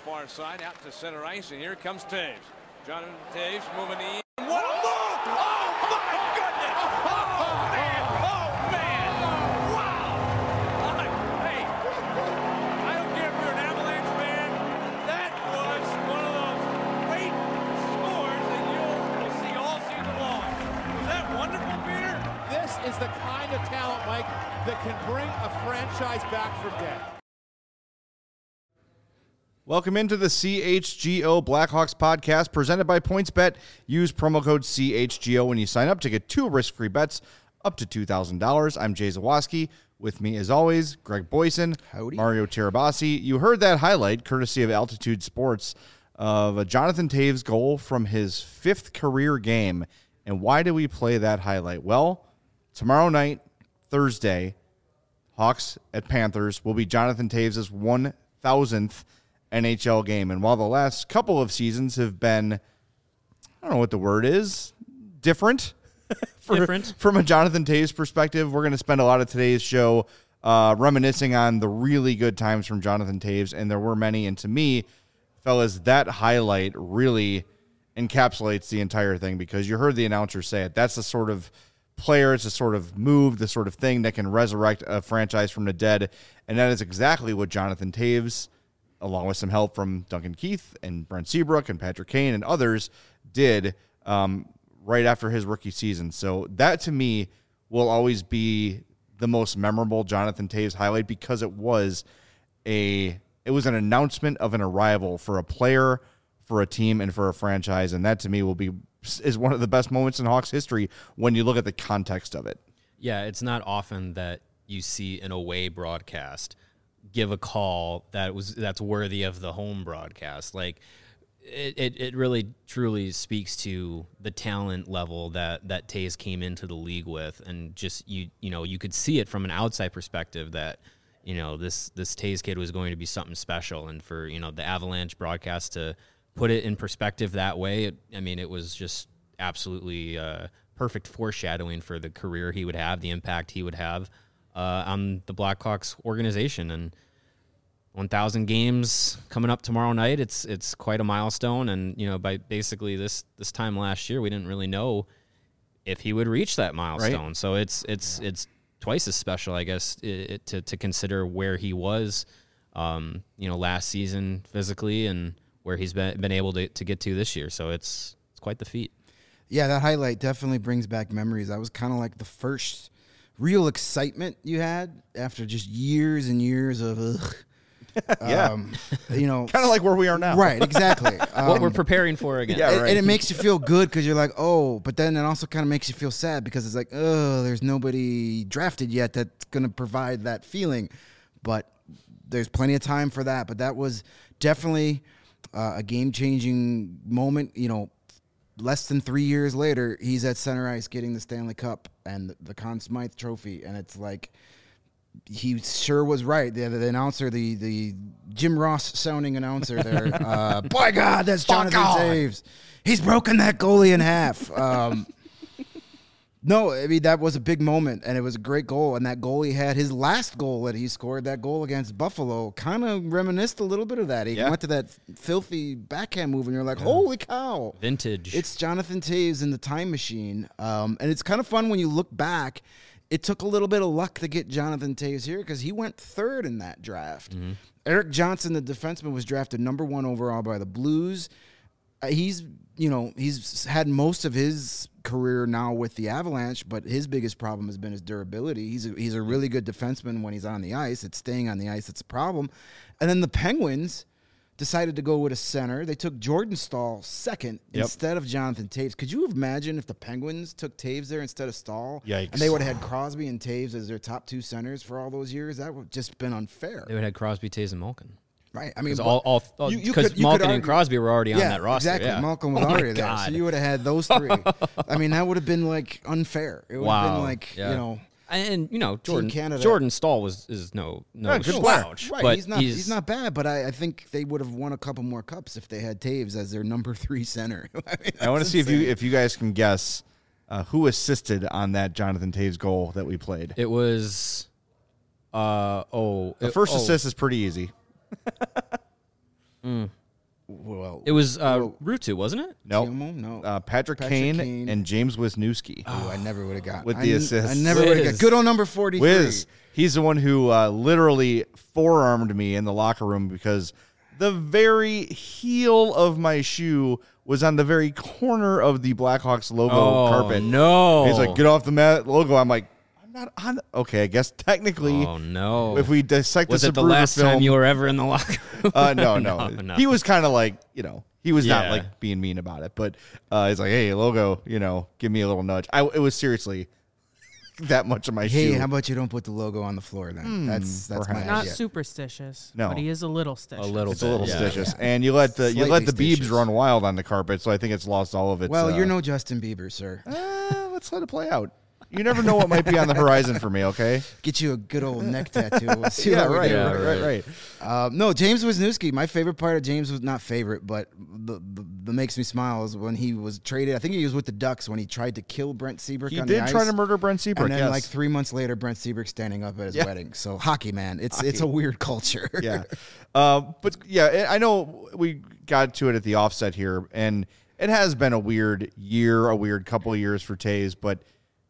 far side, out to center ice, and here comes Toews. Jonathan Toews moving in. What a move! Oh, my goodness! Oh, man! Oh, man! Wow! Hey, I don't care if you're an Avalanche fan. That was one of those great scores that you'll see all season long. Was that wonderful, Peter? This is the kind of talent, Mike, that can bring a franchise back from dead. Welcome into the CHGO Blackhawks podcast presented by PointsBet. Use promo code CHGO when you sign up to get 2 risk-free bets up to $2,000. I'm Jay Zawaski. With me, as always, Greg Boyson, Howdy. Mario Tirabassi. You heard that highlight, courtesy of Altitude Sports, of a Jonathan Toews goal from his 5th career game. And why do we play that highlight? Well, tomorrow night, Thursday, Hawks at Panthers will be Jonathan Toews' 1,000th NHL game. And while the last couple of seasons have been, I don't know what the word is, different. From a Jonathan Toews perspective, we're going to spend a lot of today's show reminiscing on the really good times from Jonathan Toews, and there were many. And to me, fellas, that highlight really encapsulates the entire thing, because you heard the announcer say it. That's the sort of player, it's the sort of move, the sort of thing that can resurrect a franchise from the dead, and that is exactly what Jonathan Toews, along with some help from Duncan Keith and Brent Seabrook and Patrick Kane and others, did right after his rookie season. So that, to me, will always be the most memorable Jonathan Toews highlight, because it was an announcement of an arrival for a player, for a team, and for a franchise. And that, to me, is one of the best moments in Hawks history when you look at the context of it. Yeah, it's not often that you see an away broadcast give a call that's worthy of the home broadcast. Like, it really truly speaks to the talent level that Toews came into the league with, and just you could see it from an outside perspective that this Toews kid was going to be something special, and for the Avalanche broadcast to put it in perspective that way, it was just absolutely perfect foreshadowing for the career he would have, the impact he would have on the Blackhawks organization. And 1,000 games coming up tomorrow night. It's quite a milestone. And, by basically this time last year, we didn't really know if he would reach that milestone. Right. So it's twice as special, I guess, to consider where he was, last season physically, and where he's been able to get to this year. So it's quite the feat. Yeah, that highlight definitely brings back memories. That was kind of like the first real excitement you had after just years and years of yeah. Kind of like where we are now. Right, exactly. What we're preparing for again. Yeah, right. And it makes you feel good because you're like, oh, but then it also kind of makes you feel sad because it's like, oh, there's nobody drafted yet that's going to provide that feeling. But there's plenty of time for that. But that was definitely a game-changing moment. Less than 3 years later, he's at center ice getting the Stanley Cup and the Conn Smythe Trophy, and it's like, he sure was right. The announcer, the Jim Ross sounding announcer there, by God, that's Jonathan Toews. He's broken that goalie in half. No, that was a big moment, and it was a great goal. And that goalie had his last goal that he scored, that goal against Buffalo, kind of reminisced a little bit of that. He went to that filthy backhand move, and you're like, holy cow. Vintage. It's Jonathan Toews in the time machine. And it's kind of fun when you look back. It took a little bit of luck to get Jonathan Toews here because he went 3rd in that draft. Mm-hmm. Eric Johnson, the defenseman, was drafted number 1 overall by the Blues. He's had most of his career now with the Avalanche, but his biggest problem has been his durability. He's a really good defenseman when he's on the ice. It's staying on the ice that's a problem. And then the Penguins decided to go with a center. They took Jordan Staal 2nd instead of Jonathan Toews. Could you imagine if the Penguins took Toews there instead of Staal? Yikes. And they would have had Crosby and Toews as their top 2 centers for all those years? That would have just been unfair. They would have had Crosby, Toews, and Malkin. Right. Because Malkin and Crosby were already on that roster. Exactly. Yeah. Malkin was already there. So you would have had those 3. That would have been unfair. It would have been And Canada. Jordan Staal is no good slouch. Right, But he's not bad, but I think they would have won a couple more cups if they had Toews as their number 3 center. I want to see if you guys can guess who assisted on that Jonathan Toews goal that we played. It was the first assist is pretty easy. No. It was Rutu, wasn't it? No, Tiomo? No. Patrick Patrick Kane Kane. and James Wisniewski. Oh, I never would have got With the assist. I never would have got. Wiz. Good old number 43. Wiz, he's the one who literally forearmed me in the locker room because the very heel of my shoe was on the very corner of the Blackhawks logo carpet. No. He's like, get off the mat logo. I'm like, I'm not on. Okay, I guess technically, Oh, no. if we dissect was this it the Zapruder last film, time you were ever in the locker room? no. No. He was kind of like, he was not Yeah. like being mean about it, but he's like, hey, logo, give me a little nudge. It was seriously that much of my Hey, shoe. how about you don't put the logo on the floor then? That's my perhaps. Not idea. superstitious. No. But he is a little stitious. A little It's bit. a little yeah. stitious, and you let the Slightly Biebs stitious. run wild on the carpet, so I think it's lost all of its. Well, you're no Justin Bieber, sir. Let's let it play out. You never know what might be on the horizon for me. Okay. Get you a good old neck tattoo. We'll see Yeah. what we Right. do. Right. No, James Wisniewski. My favorite part of James was not favorite, but the makes me smile is when he was traded. I think he was with the Ducks when he tried to kill Brent Seabrook. He on did the try ice. to murder Brent Seabrook. And then, yes. 3 months later, Brent Seabrook standing up at his Yeah. wedding. So hockey, man, it's a weird culture. Yeah. But yeah, I know we got to it at the offset here, and it has been a weird year, a weird couple of years for Taves, but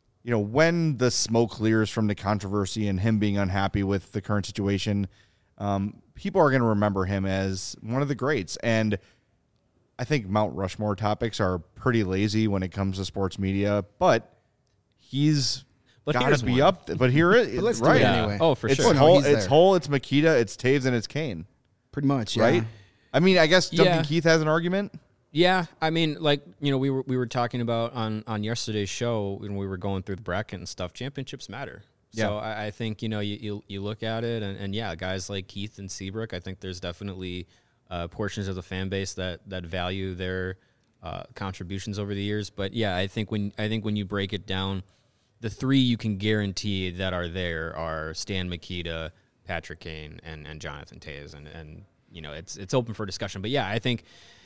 when the smoke clears from the controversy and him being unhappy with the current situation, people are going to remember him as one of the greats. And I think Mount Rushmore topics are pretty lazy when it comes to sports media, but he's got here's to be one. up. But here it But let's do right. it anyway. Oh, for It's sure. no, Hull, he's it's there. Hull, it's Makita, it's Taves, and it's Kane, Pretty much, yeah. right? I mean, I guess Duncan Yeah. Keith has an argument. Yeah, I mean, we were talking about on yesterday's show when we were going through the bracket and stuff. Championships matter. So Yeah. I think you look at it and yeah, guys like Keith and Seabrook. I think there's definitely portions of the fan base that value their contributions over the years. But yeah, I think when you break it down, the three you can guarantee that are there are Stan Mikita, Patrick Kane, and Jonathan Toews, and it's open for discussion. But yeah, I think.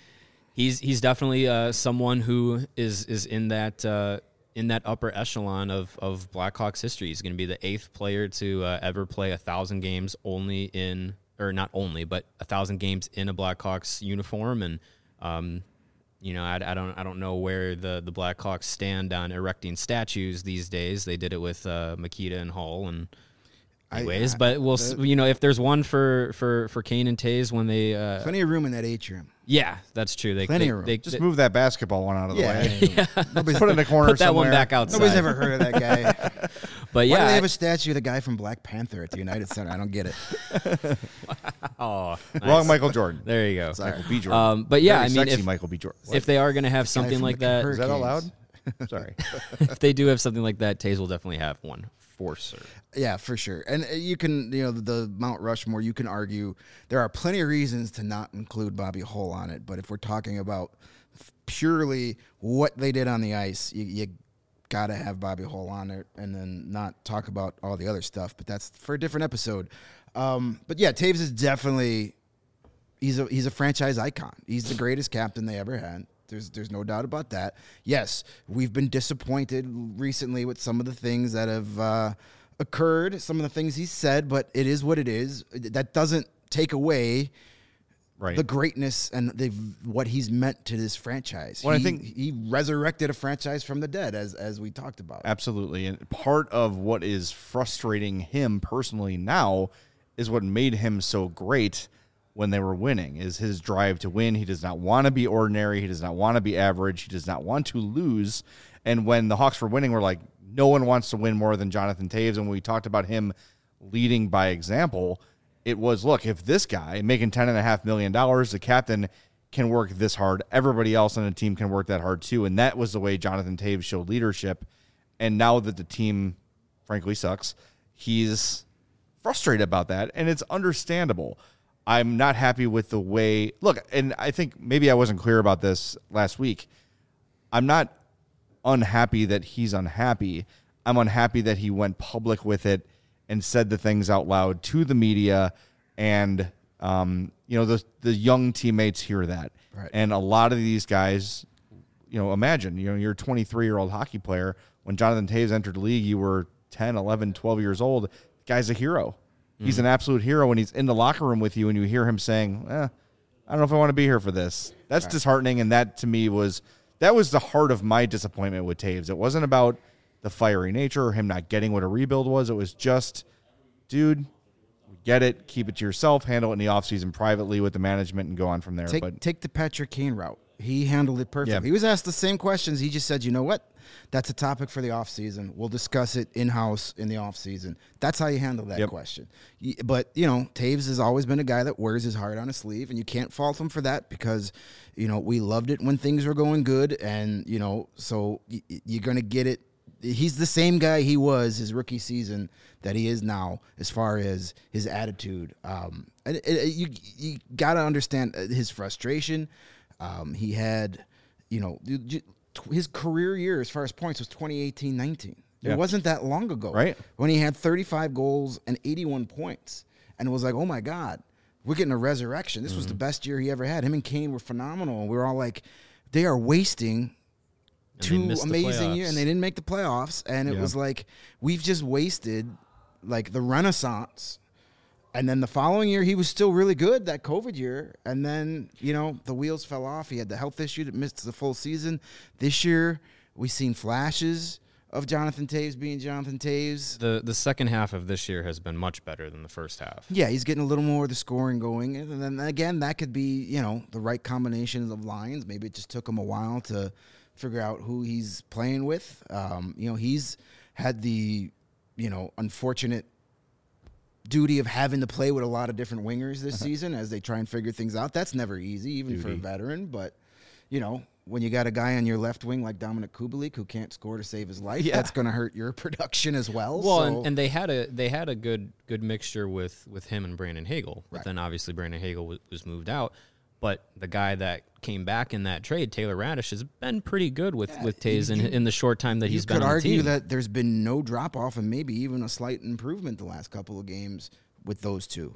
He's definitely someone who is in that upper echelon of Blackhawks history. He's going to be the 8th player to ever play 1,000 games not only, but 1,000 games in a Blackhawks uniform. And I don't know where the Blackhawks stand on erecting statues these days. They did it with Makita and Hull and. Anyways, but we'll if there's one for Kane and Toews when they Plenty of room in that atrium. yeah, that's true. Plenty of room. Just move that basketball one out of the Yeah. way. Nobody's put it in a corner put that somewhere. one back outside. Nobody's ever heard of that guy. But Why do yeah, they have a statue of the guy from Black Panther at the United Center? I don't get it. oh, nice. Wrong Michael Jordan. There you go. Michael B. Jordan. But yeah, Very I mean, sexy if Michael B. Jordan. if they are going to have something from like the that, Is that allowed? Hurricanes. Sorry. if they do have something like that, Taves will definitely have one for sure. Yeah, for sure. And you can, the Mount Rushmore, you can argue there are plenty of reasons to not include Bobby Hull on it. But if we're talking about purely what they did on the ice, you got to have Bobby Hull on it and then not talk about all the other stuff. But that's for a different episode. But yeah, Taves is definitely, he's a franchise icon. He's the greatest captain they ever had. There's no doubt about that. Yes, we've been disappointed recently with some of the things that have occurred, some of the things he said, but it is what it is. That doesn't take away Right. the greatness and what he's meant to this franchise. Well, I he, think- he resurrected a franchise from the dead, as we talked about. Absolutely. And part of what is frustrating him personally now is what made him so great when they were winning, is his drive to win. He does not want to be ordinary. He does not want to be average. He does not want to lose. And when the Hawks were winning, we're like, no one wants to win more than Jonathan Toews. And when we talked about him leading by example, it was, look, if this guy making $10.5 million, the captain, can work this hard, everybody else on the team can work that hard too. And that was the way Jonathan Toews showed leadership. And now that the team, frankly, sucks, he's frustrated about that. And it's understandable. I'm not happy with the way, look, and I think maybe I wasn't clear about this last week. I'm not unhappy that he's unhappy. I'm unhappy that he went public with it and said the things out loud to the media, and the young teammates hear that. Right. And a lot of these guys, imagine, you're a 23-year-old hockey player. When Jonathan Toews entered the league, you were 10, 11, 12 years old. The guy's a hero. He's an absolute hero when he's in the locker room with you and you hear him saying, I I don't know if I want to be here for this. That's disheartening, and that to me was the heart of my disappointment with Taves. It wasn't about the fiery nature or him not getting what a rebuild was. It was just, dude, get it, keep it to yourself, handle it in the offseason privately with the management, and go on from there. Take the Patrick Kane route. He handled it perfectly. Yeah. He was asked the same questions. He just said, you know what? That's a topic for the offseason. We'll discuss it in-house in the offseason. That's how you handle that question. But, Taves has always been a guy that wears his heart on his sleeve, and you can't fault him for that because, we loved it when things were going good, and, so you're going to get it. He's the same guy he was his rookie season that he is now as far as his attitude. You got to understand his frustration. He had, his career year as far as points was 2018-19. It wasn't that long ago, right? When he had 35 goals and 81 points. And it was like, oh, my God, we're getting a resurrection. This was the best year he ever had. Him and Kane were phenomenal. And we were all like, they are wasting two amazing years. And they didn't make the playoffs. And it was like, we've just wasted, like, the renaissance. And then the following year, he was still really good, that COVID year. And then, the wheels fell off. He had the health issue that missed the full season. This year, we've seen flashes of Jonathan Taves being Jonathan Taves. The second half of this year has been much better than the first half. Yeah, he's getting a little more of the scoring going. And then, again, that could be, the right combinations of lines. Maybe it just took him a while to figure out who he's playing with. He's had the, unfortunate duty of having to play with a lot of different wingers this season as they try and figure things out. That's never easy, even for a veteran. But, when you got a guy on your left wing like Dominic Kubalik who can't score to save his life, that's going to hurt your production as well. Well, and they had a good mixture with him and Brandon Hagel. But then obviously Brandon Hagel was moved out. But the guy that came back in that trade, Taylor Radish, has been pretty good with Taves in the short time that he's been on the team. You could argue that there's been no drop-off and maybe even a slight improvement the last couple of games with those two.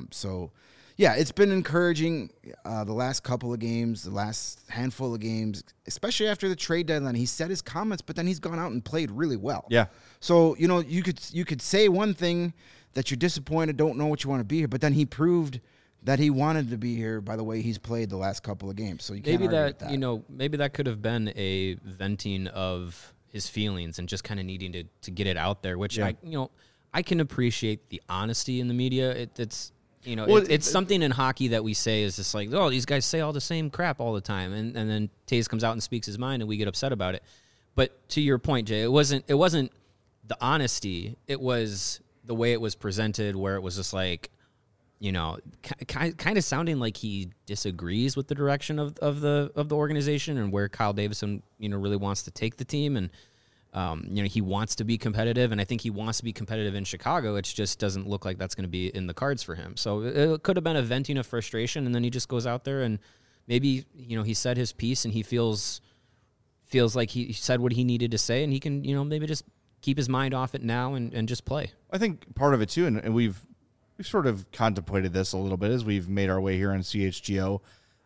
Yeah. It's been encouraging the last couple of games, the last handful of games, especially after the trade deadline. He said his comments, but then he's gone out and played really well. Yeah. So, you could say one thing that you're disappointed, don't know what you want to be here, but then he proved that he wanted to be here by the way he's played the last couple of games. So you can't argue with that. Maybe that could have been a venting of his feelings and just kind of needing to get it out there, which I can appreciate the honesty in the media. It's something in hockey that we say is just like, oh, these guys say all the same crap all the time. And then Taves comes out and speaks his mind and we get upset about it. But to your point, Jay, it wasn't the honesty. It was the way it was presented where it was just like, kind of sounding like he disagrees with the direction of the organization and where Kyle Davison, really wants to take the team. And, he wants to be competitive. And I think he wants to be competitive in Chicago. It just doesn't look like that's going to be in the cards for him. So it could have been a venting of frustration. And then he just goes out there and maybe, he said his piece and he feels like he said what he needed to say. And he can, maybe just keep his mind off it now and just play. I think part of it too, and we've sort of contemplated this a little bit as we've made our way here on CHGO.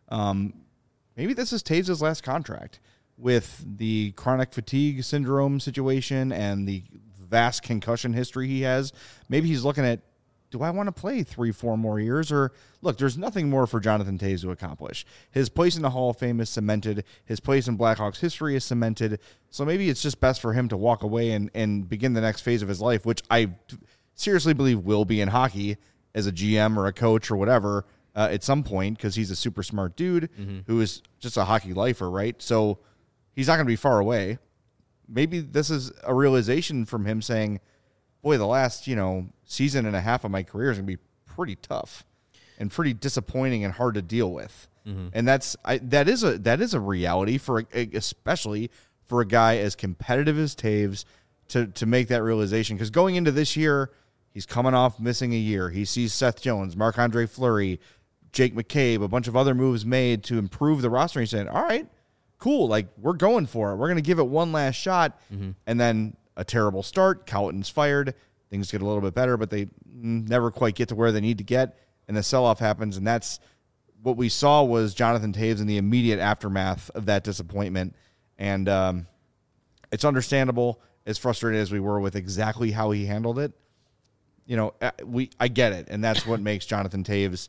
Maybe this is Taves' last contract with the chronic fatigue syndrome situation and the vast concussion history he has. Maybe he's looking at, do I want to play 3-4 more years? Or look, there's nothing more for Jonathan Taves to accomplish. His place in the Hall of Fame is cemented. His place in Blackhawks history is cemented. So maybe it's just best for him to walk away and begin the next phase of his life, which I seriously believe will be in hockey as a GM or a coach or whatever at some point, because he's a super smart dude who is just a hockey lifer, right? So he's not going to be far away. Maybe this is a realization from him saying, boy, the last, season and a half of my career is going to be pretty tough and pretty disappointing and hard to deal with. And that is a reality especially for a guy as competitive as Taves to make that realization. Because going into this year, he's coming off missing a year. He sees Seth Jones, Marc-Andre Fleury, Jake McCabe, a bunch of other moves made to improve the roster. He's saying, all right, cool. Like, we're going for it. We're going to give it one last shot. And then a terrible start. Colton's fired. Things get a little bit better, but they never quite get to where they need to get. And the sell-off happens. And that's what we saw was Jonathan Taves in the immediate aftermath of that disappointment. And it's understandable, as frustrated as we were with exactly how he handled it. I get it, and that's what makes Jonathan Taves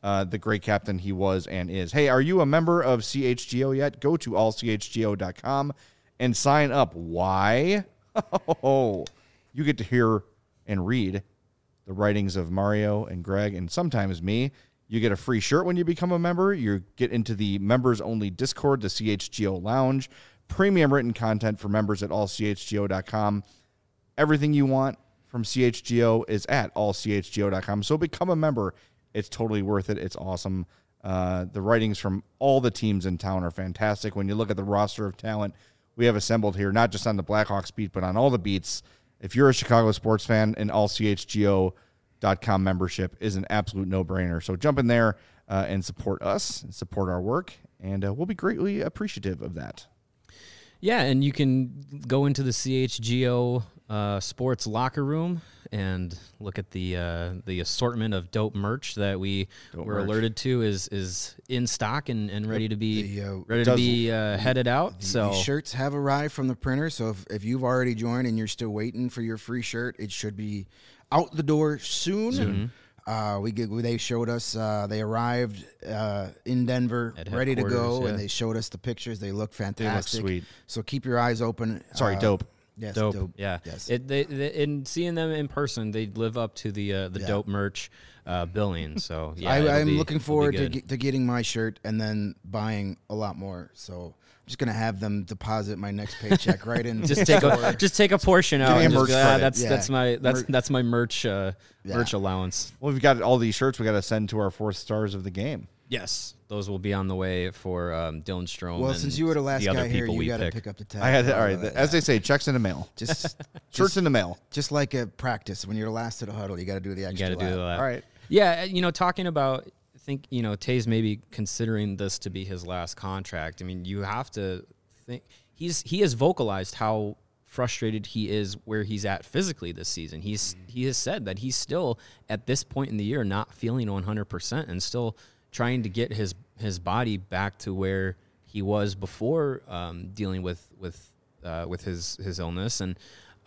the great captain he was and is. Hey, are you a member of CHGO yet? Go to allchgo.com and sign up. Why? Oh, you get to hear and read the writings of Mario and Greg and sometimes me. You get a free shirt when you become a member. You get into the members-only Discord, the CHGO Lounge, premium written content for members at allchgo.com. Everything you want from CHGO is at allchgo.com. So become a member. It's totally worth it. It's awesome. The writings from all the teams in town are fantastic. When you look at the roster of talent we have assembled here, not just on the Blackhawks beat, but on all the beats, if you're a Chicago sports fan, an allchgo.com membership is an absolute no-brainer. So jump in there and support us and support our work, and we'll be greatly appreciative of that. Yeah, and you can go into the CHGO sports locker room and look at the assortment of dope merch that we were alerted to is in stock and ready to be headed out. The shirts have arrived from the printer, so if you've already joined and you're still waiting for your free shirt, it should be out the door soon. They showed us they arrived in Denver, ready to go, and they showed us the pictures. They look fantastic. They look sweet. So keep your eyes open. Dope. Yes, dope. Yeah. Yes. In seeing them in person, they live up to the dope merch billing. So yeah, I'm looking forward to getting my shirt and then buying a lot more. So I'm just gonna have them deposit my next paycheck right in. Just take a portion out. And just, that's my merch merch allowance. Well, we've got all these shirts we got to send to our 4th stars of the game. Yes, those will be on the way for Dylan Strome. Well, since you were the last guy here, you got to pick up the tab. All right, as they say, checks in the mail. Shirts in the mail. Just like a practice, when you're last to the huddle, you got to do the extra. You got to do that. All right. Yeah, talking about, I think Tays maybe considering this to be his last contract. I mean, you have to think he has vocalized how frustrated he is where he's at physically this season. He has said that he's still at this point in the year not feeling 100% and still trying to get his body back to where he was before dealing with his illness, and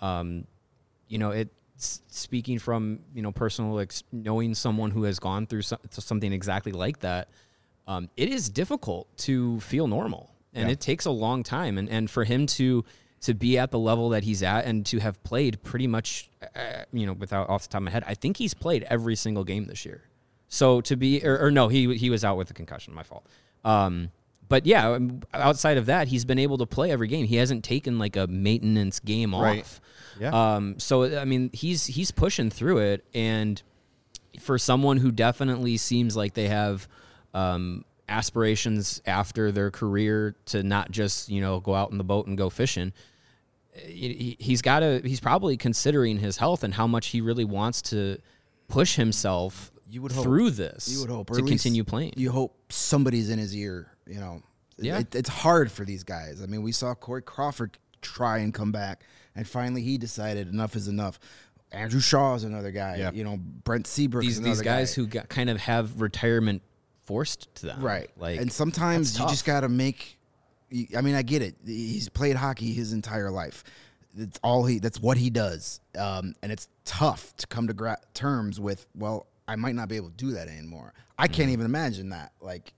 it's speaking from personal knowing someone who has gone through something exactly like that. It is difficult to feel normal, and it takes a long time, and for him to be at the level that he's at and to have played pretty much without off the top of my head, I think he's played every single game this year. So to be, or no, he was out with a concussion. My fault. But yeah, outside of that, he's been able to play every game. He hasn't taken like a maintenance game off. Yeah. So I mean, he's pushing through it, and for someone who definitely seems like they have aspirations after their career to not just go out in the boat and go fishing. He's probably considering his health and how much he really wants to push himself through this. You would hope to continue playing. You hope somebody's in his ear. Yeah. It's hard for these guys. I mean, we saw Corey Crawford try and come back, and finally he decided enough is enough. Andrew Shaw is another guy. Yeah. Brent Seabrook is another these guys guy. who kind of have retirement forced to them. Right. Like, and sometimes you tough. just got to make. I mean, I get it. He's played hockey his entire life. That's what he does. And it's tough to come to terms with. Well, I might not be able to do that anymore. I can't even imagine that. Like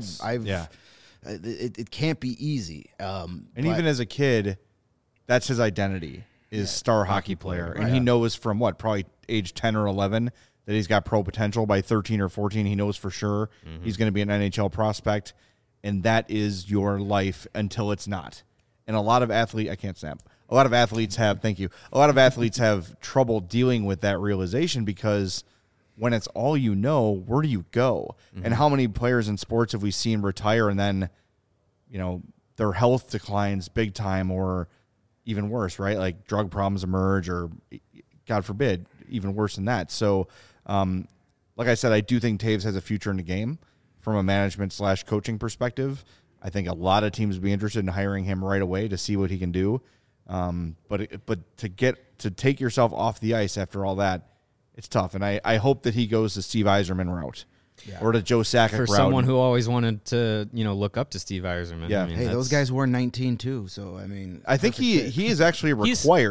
it can't be easy. And even as a kid, that's his identity is star hockey player, and he knows from probably age 10 or 11 that he's got pro potential. By 13 or 14, he knows for sure he's going to be an NHL prospect, and that is your life until it's not. And a lot of athletes, I can't snap. A lot of athletes have, thank you. A lot of athletes have trouble dealing with that realization because when it's all you know, where do you go? And how many players in sports have we seen retire and then, their health declines big time, or even worse, right? Like drug problems emerge, or God forbid, even worse than that. So, like I said, I do think Taves has a future in the game from a management/coaching perspective. I think a lot of teams would be interested in hiring him right away to see what he can do. But to take yourself off the ice after all that, it's tough. And I hope that he goes the Steve Yzerman route or the Joe Sakic route. For someone who always wanted to, look up to Steve Yzerman. Yeah. I mean, hey, those guys were 19 too. So I mean, I think he is actually required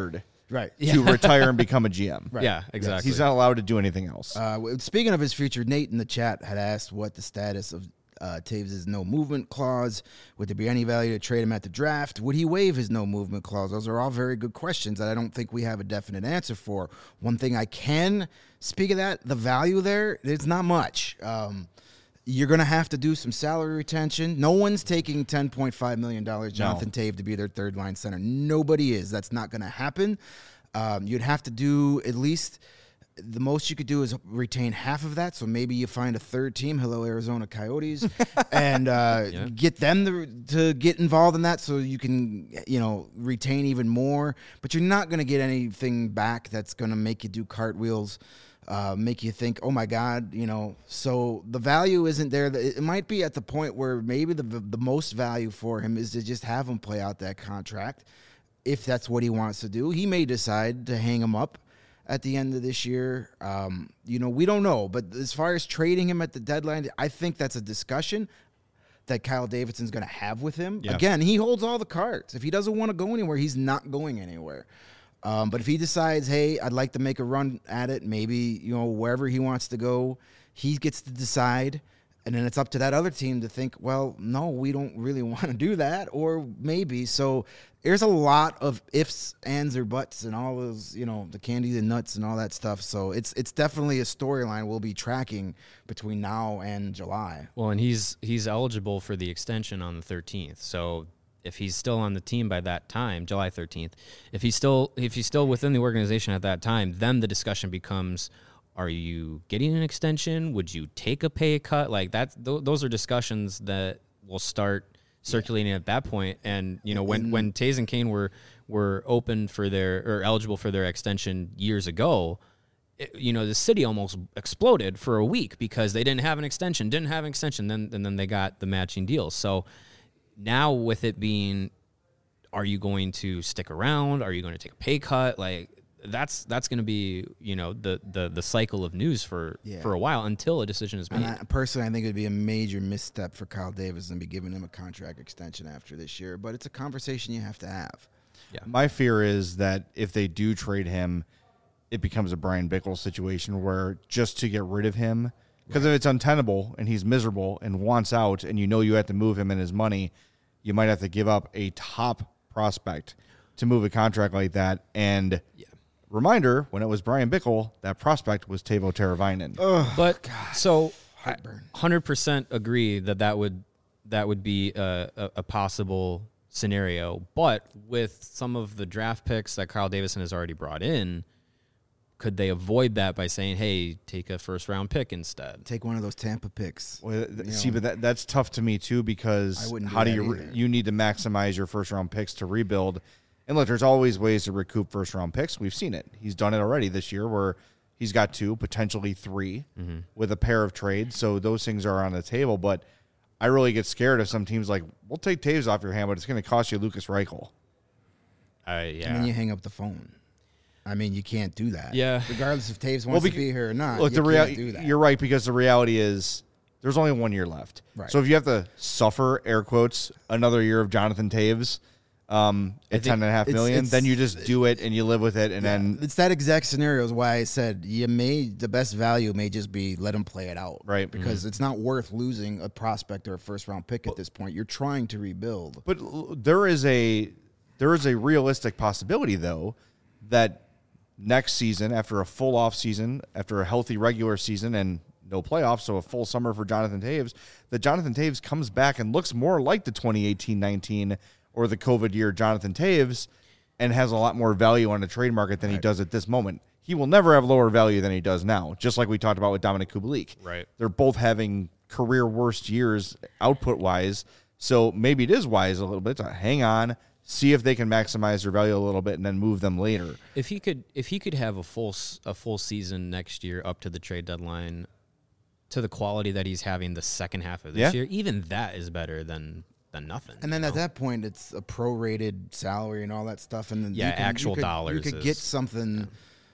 Right. to retire and become a GM. Yeah, exactly. He's not allowed to do anything else. Speaking of his future, Nate in the chat had asked what the status of Taves' no movement clause. Would there be any value to trade him at the draft? Would he waive his no movement clause? Those are all very good questions that I don't think we have a definite answer for. One thing I can speak of that, the value there, it's not much. You're going to have to do some salary retention. No one's taking $10.5 million Jonathan Tave to be their third line center. Nobody is. That's not going to happen. You'd have to do at least the most you could do is retain half of that. So maybe you find a third team, hello Arizona Coyotes, and get them to get involved in that so you can, retain even more. But you're not going to get anything back that's going to make you do cartwheels, make you think, oh my God, so the value isn't there. It might be at the point where maybe the most value for him is to just have him play out that contract. If that's what he wants to do, he may decide to hang him up at the end of this year. We don't know. But as far as trading him at the deadline, I think that's a discussion that Kyle Davidson's going to have with him. Yeah. Again, he holds all the cards. If he doesn't want to go anywhere, he's not going anywhere. But if he decides, hey, I'd like to make a run at it, maybe, wherever he wants to go, he gets to decide. And then it's up to that other team to think, well, no, we don't really want to do that, or maybe. So there's a lot of ifs, ands, or buts, and all those, the candy and nuts and all that stuff. So it's definitely a storyline we'll be tracking between now and July. Well, and he's eligible for the extension on the 13th. So if he's still on the team by that time, July 13th, if he's still within the organization at that time, then the discussion becomes, are you getting an extension? Would you take a pay cut? Like that, those are discussions that will start circulating at that point. And when Taves and Kane were open for or eligible for their extension years ago, the city almost exploded for a week because they didn't have an extension. Then they got the matching deals. So now with it being, are you going to stick around? Are you going to take a pay cut? Like, that's going to be the cycle of news for a while until a decision is made. And personally, I think it would be a major misstep for Kyle Davidson to be giving him a contract extension after this year. But it's a conversation you have to have. Yeah. My fear is that if they do trade him, it becomes a Brian Bickle situation where just to get rid of him, because if it's untenable and he's miserable and wants out, and you have to move him and his money, you might have to give up a top prospect to move a contract like that. And reminder, when it was Brian Bickle, that prospect was Teuvo Teravainen. But so 100% agree that would be a possible scenario. But with some of the draft picks that Kyle Davidson has already brought in, could they avoid that by saying, hey, take a first-round pick instead? Take one of those Tampa picks. Well, but that's tough to me, too, because how do you need to maximize your first-round picks to rebuild? And look, there's always ways to recoup first-round picks. We've seen it. He's done it already this year where he's got 2, potentially 3, with a pair of trades. So those things are on the table. But I really get scared if some teams like, we'll take Taves off your hand, but it's going to cost you Lucas Reichel. And then you hang up the phone. I mean, you can't do that. Yeah. Regardless if Taves wants to be here or not, look, you can't do that. You're right, because the reality is there's only 1 year left. Right. So if you have to suffer, air quotes, another year of Jonathan Taves at $10.5 million, then you just do it and you live with it. And then it's that exact scenario is why I said the best value may just be let him play it out. Right. Because it's not worth losing a prospect or a first-round pick at this point. You're trying to rebuild. But there is a realistic possibility, though, that next season, after a full off season, after a healthy regular season and no playoffs, so a full summer for Jonathan Taves, that Jonathan Taves comes back and looks more like the 2018-19 or the COVID year Jonathan Taves and has a lot more value on the trade market than he does at this moment. He will never have lower value than he does now, just like we talked about with Dominic Kubalik. Right. They're both having career worst years output-wise, so maybe it is wise a little bit to hang on, see if they can maximize their value a little bit, and then move them later. If he could have a full season next year up to the trade deadline, to the quality that he's having the second half of this year, even that is better than nothing. And then at that point, it's a prorated salary and all that stuff, and then actual dollars. You could get something.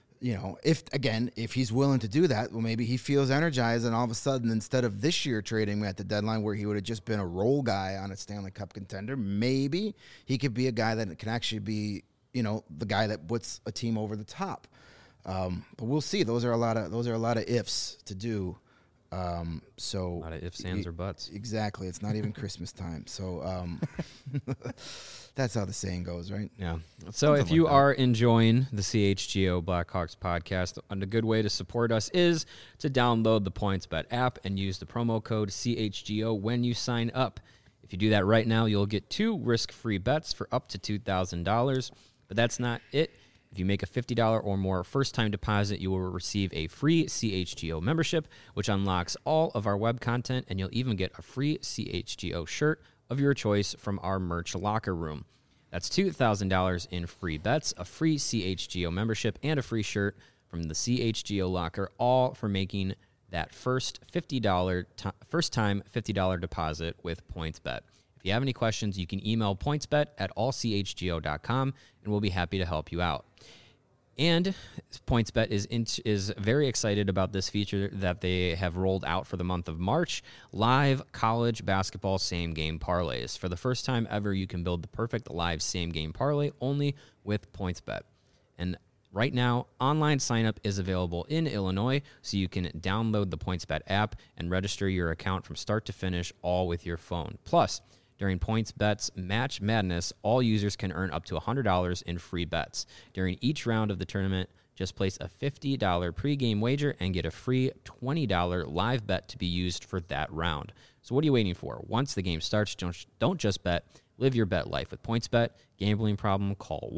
If he's willing to do that, well, maybe he feels energized, and all of a sudden, instead of this year trading at the deadline where he would have just been a role guy on a Stanley Cup contender, maybe he could be a guy that can actually be the guy that puts a team over the top. But we'll see. Those are a lot of ifs to do. So A lot of ifs, ands, or buts. Exactly. It's not even Christmas time. So that's how the saying goes, right? Yeah. So if you are enjoying the CHGO Blackhawks podcast, a good way to support us is to download the PointsBet app and use the promo code CHGO when you sign up. If you do that right now, you'll get 2 risk-free bets for up to $2,000. But that's not it. If you make a $50 or more first-time deposit, you will receive a free CHGO membership, which unlocks all of our web content, and you'll even get a free CHGO shirt of your choice from our merch locker room. That's $2,000 in free bets, a free CHGO membership, and a free shirt from the CHGO locker, all for making that first first-time $50 deposit with PointsBet. If you have any questions, you can email pointsbet@allchgo.com, and we'll be happy to help you out. And PointsBet is very excited about this feature that they have rolled out for the month of March, live college basketball same-game parlays. For the first time ever, you can build the perfect live same-game parlay only with PointsBet. And right now, online sign-up is available in Illinois, so you can download the PointsBet app and register your account from start to finish, all with your phone. Plus, during PointsBet's Match Madness, all users can earn up to $100 in free bets. During each round of the tournament, just place a $50 pregame wager and get a free $20 live bet to be used for that round. So what are you waiting for? Once the game starts, don't just bet. Live your bet life with PointsBet. Gambling problem? Call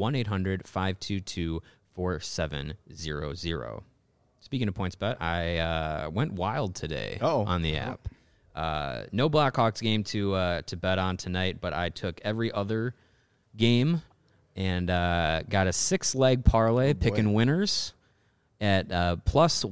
1-800-522-4700. Speaking of PointsBet, I went wild today on the app. No Blackhawks game to bet on tonight, but I took every other game and got a 6-leg parlay picking winners at plus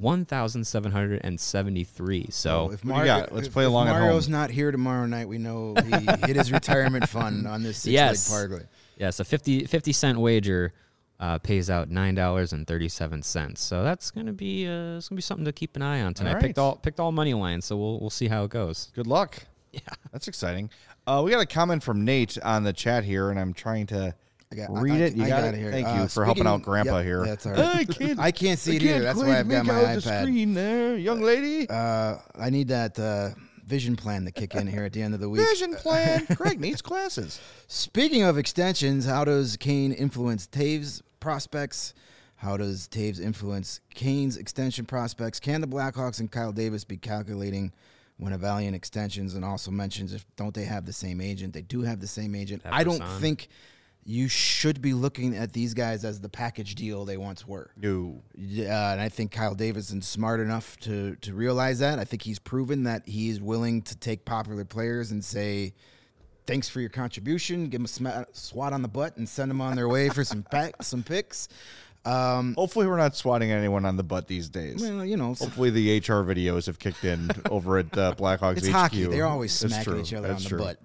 1,773. So if Let's play along at home. Mario's not here tomorrow night, we know he hit his retirement fund on this 6-leg parlay. Yes, a 50-cent wager pays out $9.37. So that's gonna be something to keep an eye on tonight. All right. Picked all money lines, so we'll see how it goes. Good luck. Yeah, that's exciting. We got a comment from Nate on the chat here, and I'm trying to read it. You got it here. Thank you for helping out Grandpa here. That's all right. I can't see it either. That's why I've got my iPad. The screen there, young lady. I need that vision plan to kick in here at the end of the week. Vision plan. Greg needs glasses. Speaking of extensions, how does Kane influence Taves' prospects? How does Taves influence Kane's extension prospects? Can the Blackhawks and Kyle Davis be calculating when evaluating extensions? And also mentions, don't they have the same agent? They do have the same agent. I don't think you should be looking at these guys as the package deal they once were. No. And I think Kyle Davis is smart enough to realize that. I think he's proven that he's willing to take popular players and say, thanks for your contribution, give them a swat on the butt, and send them on their way for some picks. Hopefully we're not swatting anyone on the butt these days. Well, hopefully the HR videos have kicked in over at Blackhawks it's HQ. Hockey. They're always smacking each other on the butt.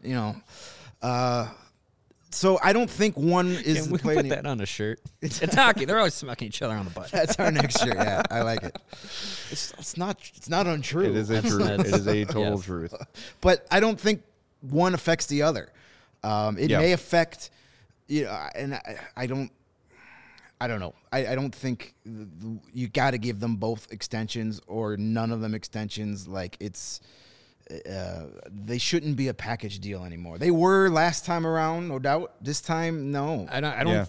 So I don't think one is Can we put that on a shirt? It's hockey. They're always smacking each other on the butt. That's our next shirt. Yeah, I like it. It's not untrue. It is a truth. It is a total truth. But I don't think one affects the other. It may affect, and I don't know. I don't think you got to give them both extensions or none of them extensions. Like they shouldn't be a package deal anymore. They were last time around, no doubt. This time, no. I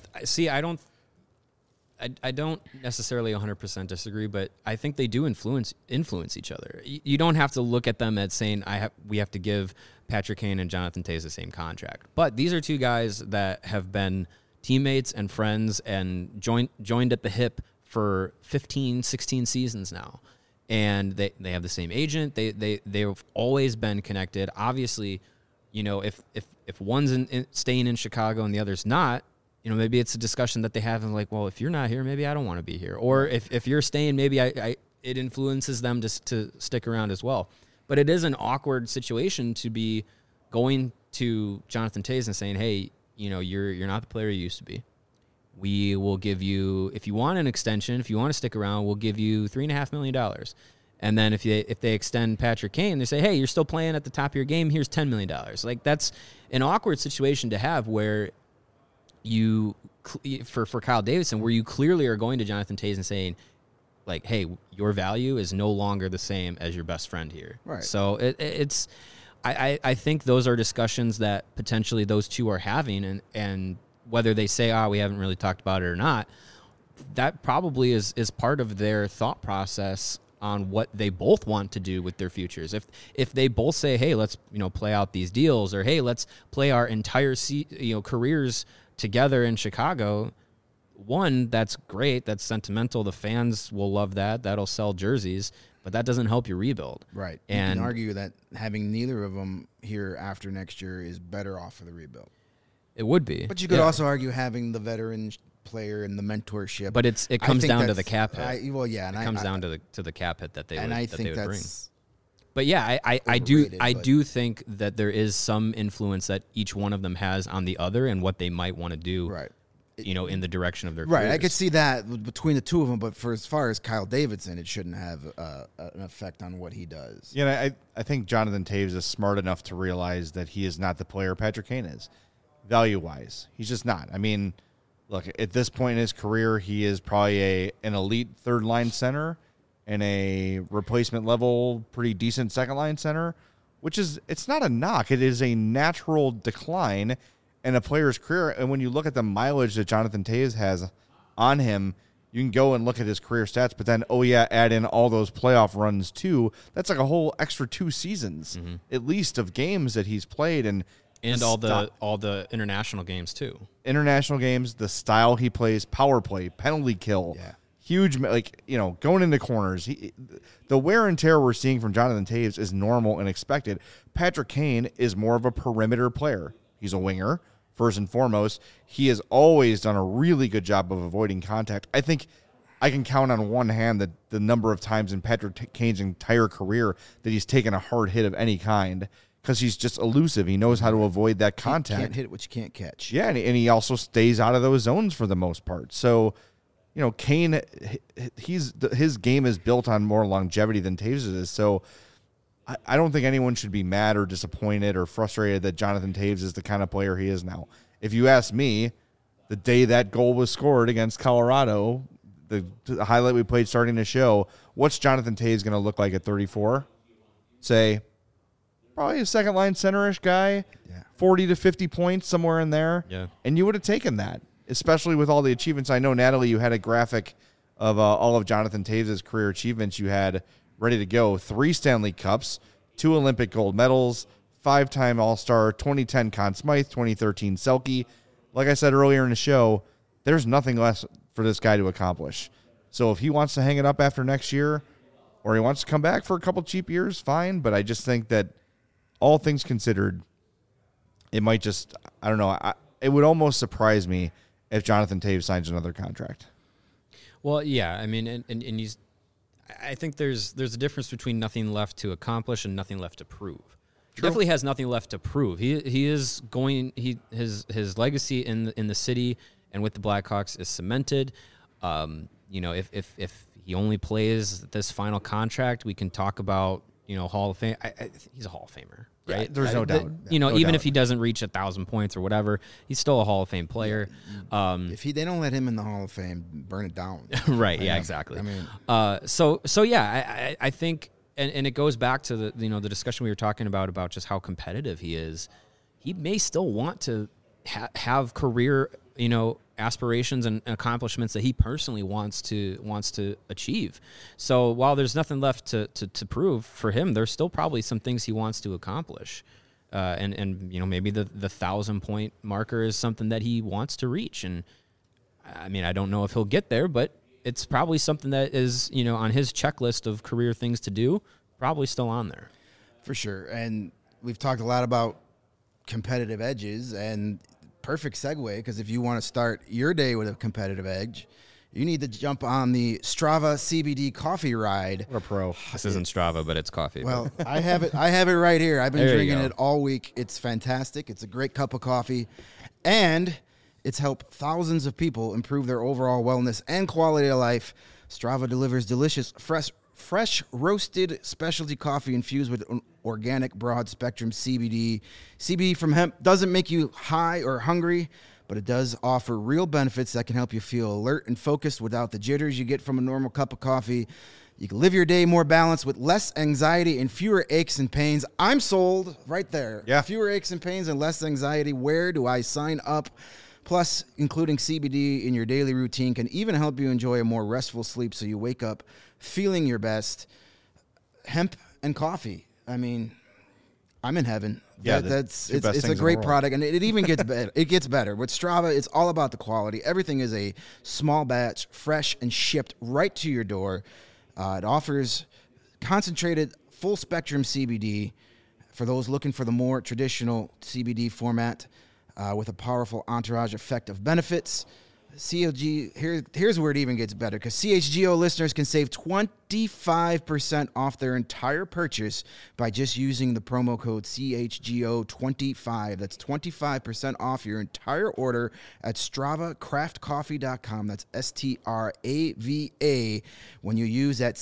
don't necessarily 100% disagree, but I think they do influence each other. You don't have to look at them as saying we have to give Patrick Kane and Jonathan Toews the same contract. But these are two guys that have been teammates and friends and joined at the hip for 15, 16 seasons now. And they have the same agent. They've always been connected. Obviously, if one's staying in Chicago and the other's not, maybe it's a discussion that they have and like, well, if you're not here, maybe I don't want to be here. Or if you're staying, maybe it influences them to stick around as well. But it is an awkward situation to be going to Jonathan Toews and saying, hey, you're not the player you used to be. We will give you, if you want an extension, if you want to stick around, we'll give you $3.5 million. And then if they extend Patrick Kane, they say, hey, you're still playing at the top of your game, here's $10 million. Like, that's an awkward situation to have where you for Kyle Davidson, where you clearly are going to Jonathan Toews and saying, like, hey, your value is no longer the same as your best friend here. Right. So it's I think those are discussions that potentially those two are having, and whether they say, we haven't really talked about it or not, that probably is part of their thought process on what they both want to do with their futures. If they both say, hey, let's play out these deals, or hey, let's play our entire careers together in Chicago, one, that's great, that's sentimental, the fans will love that, that'll sell jerseys, but that doesn't help you rebuild. Right. And you can argue that having neither of them here after next year is better off for the rebuild. It would be. But you could also argue having the veteran player and the mentorship. But it comes down to the cap hit. It comes down to the cap hit that they would, I think bring. that's But yeah, I overrated, do think that there is some influence that each one of them has on the other and what they might want to do. right. In the direction of their Right, careers. I could see that between the two of them, but for as far as Kyle Davidson, it shouldn't have an effect on what he does. Yeah, I think Jonathan Toews is smart enough to realize that he is not the player Patrick Kane is, value-wise. He's just not. I mean, look, at this point in his career, he is probably an elite third-line center and a replacement-level, pretty decent second-line center, which is, it's not a knock. It is a natural decline in a player's career. And when you look at the mileage that Jonathan Toews has on him, you can go and look at his career stats, but then, add in all those playoff runs too. That's like a whole extra 2 seasons, at least, of games that he's played. And all the international games too. International games, the style he plays, power play, penalty kill, huge, going into corners. The wear and tear we're seeing from Jonathan Toews is normal and expected. Patrick Kane is more of a perimeter player. He's a winger. First and foremost, he has always done a really good job of avoiding contact. I think I can count on one hand the number of times in Patrick Kane's entire career that he's taken a hard hit of any kind, because he's just elusive. He knows how to avoid that contact. You can't hit what you can't catch. Yeah, and he also stays out of those zones for the most part. So, Kane, his game is built on more longevity than Toews is. So I don't think anyone should be mad or disappointed or frustrated that Jonathan Toews is the kind of player he is now. If you ask me, the day that goal was scored against Colorado, the highlight we played starting the show, what's Jonathan Toews going to look like at 34? Say, probably a second-line center-ish guy, 40 to 50 points, somewhere in there. Yeah. And you would have taken that, especially with all the achievements. I know, Natalie, you had a graphic of all of Jonathan Toews' career achievements you had ready to go. 3 Stanley Cups, 2 Olympic gold medals, 5-time All-Star, 2010 Conn Smythe, 2013 Selke. Like I said earlier in the show, there's nothing less for this guy to accomplish. So if he wants to hang it up after next year, or he wants to come back for a couple cheap years, fine. But I just think that all things considered, it might just, I don't know, it would almost surprise me if Jonathan Toews signs another contract. Well, yeah, I mean, and he's, I think there's a difference between nothing left to accomplish and nothing left to prove. He definitely has nothing left to prove. He is going, his legacy in the city and with the Blackhawks is cemented. If he only plays this final contract, we can talk about, Hall of Fame. He's a Hall of Famer, right? Yeah, there's no doubt. Even if he doesn't reach 1,000 points or whatever, he's still a Hall of Fame player. If they don't let him in the Hall of Fame, burn it down. Right. Yeah. Exactly. I mean, I think, and it goes back to the discussion we were talking about just how competitive he is. He may still want to have career, aspirations and accomplishments that he personally wants to achieve. So while there's nothing left to prove for him, there's still probably some things he wants to accomplish. And maybe the 1,000-point marker is something that he wants to reach. And I mean, I don't know if he'll get there, but it's probably something that is, on his checklist of career things to do, probably still on there. For sure. And we've talked a lot about competitive edges, and perfect segue, because if you want to start your day with a competitive edge, you need to jump on the Strava CBD coffee ride. What a pro. This isn't Strava, but it's coffee. Well, I have it right here. I've been There you drinking go. it all week. It's fantastic. It's a great cup of coffee, and it's helped thousands of people improve their overall wellness and quality of life. Strava delivers delicious, fresh roasted specialty coffee infused with organic broad spectrum CBD. CBD from hemp doesn't make you high or hungry, but it does offer real benefits that can help you feel alert and focused without the jitters you get from a normal cup of coffee. You can live your day more balanced with less anxiety and fewer aches and pains. I'm sold right there. Yeah. Fewer aches and pains and less anxiety. Where do I sign up? Plus, including CBD in your daily routine can even help you enjoy a more restful sleep so you wake up feeling your best. Hemp and coffee. I mean, I'm in heaven. Yeah, It's two best a things in the great world. product, and it even gets better. It gets better. With Strava, it's all about the quality. Everything is a small batch, fresh, and shipped right to your door. It offers concentrated full-spectrum CBD for those looking for the more traditional CBD format with a powerful entourage effect of benefits. Here's where it even gets better, because CHGO listeners can save 25% off their entire purchase by just using the promo code CHGO25. That's 25% off your entire order at StravaCraftCoffee.com. That's STRAVA when you use that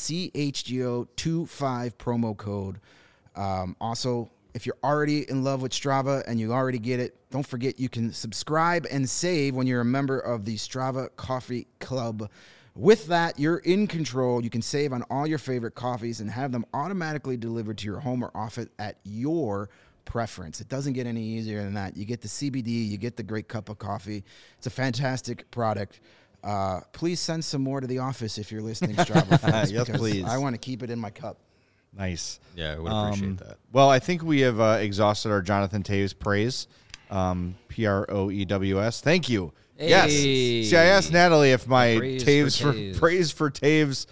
CHGO25 promo code. Also, if you're already in love with Strava and you already get it, don't forget you can subscribe and save when you're a member of the Strava Coffee Club. With that, you're in control. You can save on all your favorite coffees and have them automatically delivered to your home or office at your preference. It doesn't get any easier than that. You get the CBD, you get the great cup of coffee. It's a fantastic product. Please send some more to the office if you're listening, Strava fans. Yes, because please. I want to keep it in my cup. Nice. Yeah, I would appreciate that. Well, I think we have exhausted our Jonathan Taves praise. Proews. Thank you. Hey. Yes. See, I asked Natalie if my Praise for Taves. praise for Taves,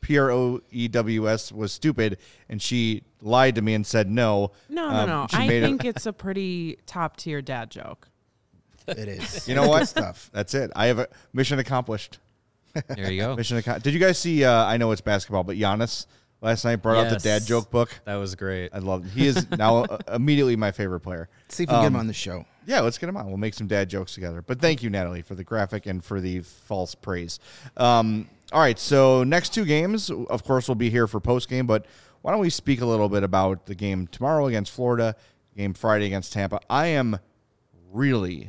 Proews, was stupid, and she lied to me and said no. No. She I made think it's a pretty top tier dad joke. It is. You know what? Good stuff. That's it. I have a mission accomplished. There you go. Did you guys see? I know it's basketball, but Giannis last night brought out the dad Yes. joke book. That was great. I love it. He is now immediately my favorite player. See if we can get him on the show. Yeah, let's get him on. We'll make some dad jokes together. But thank you, Natalie, for the graphic and for the false praise. All right, so next two games, of course, we'll be here for post-game, but why don't we speak a little bit about the game tomorrow against Florida, game Friday against Tampa. I am really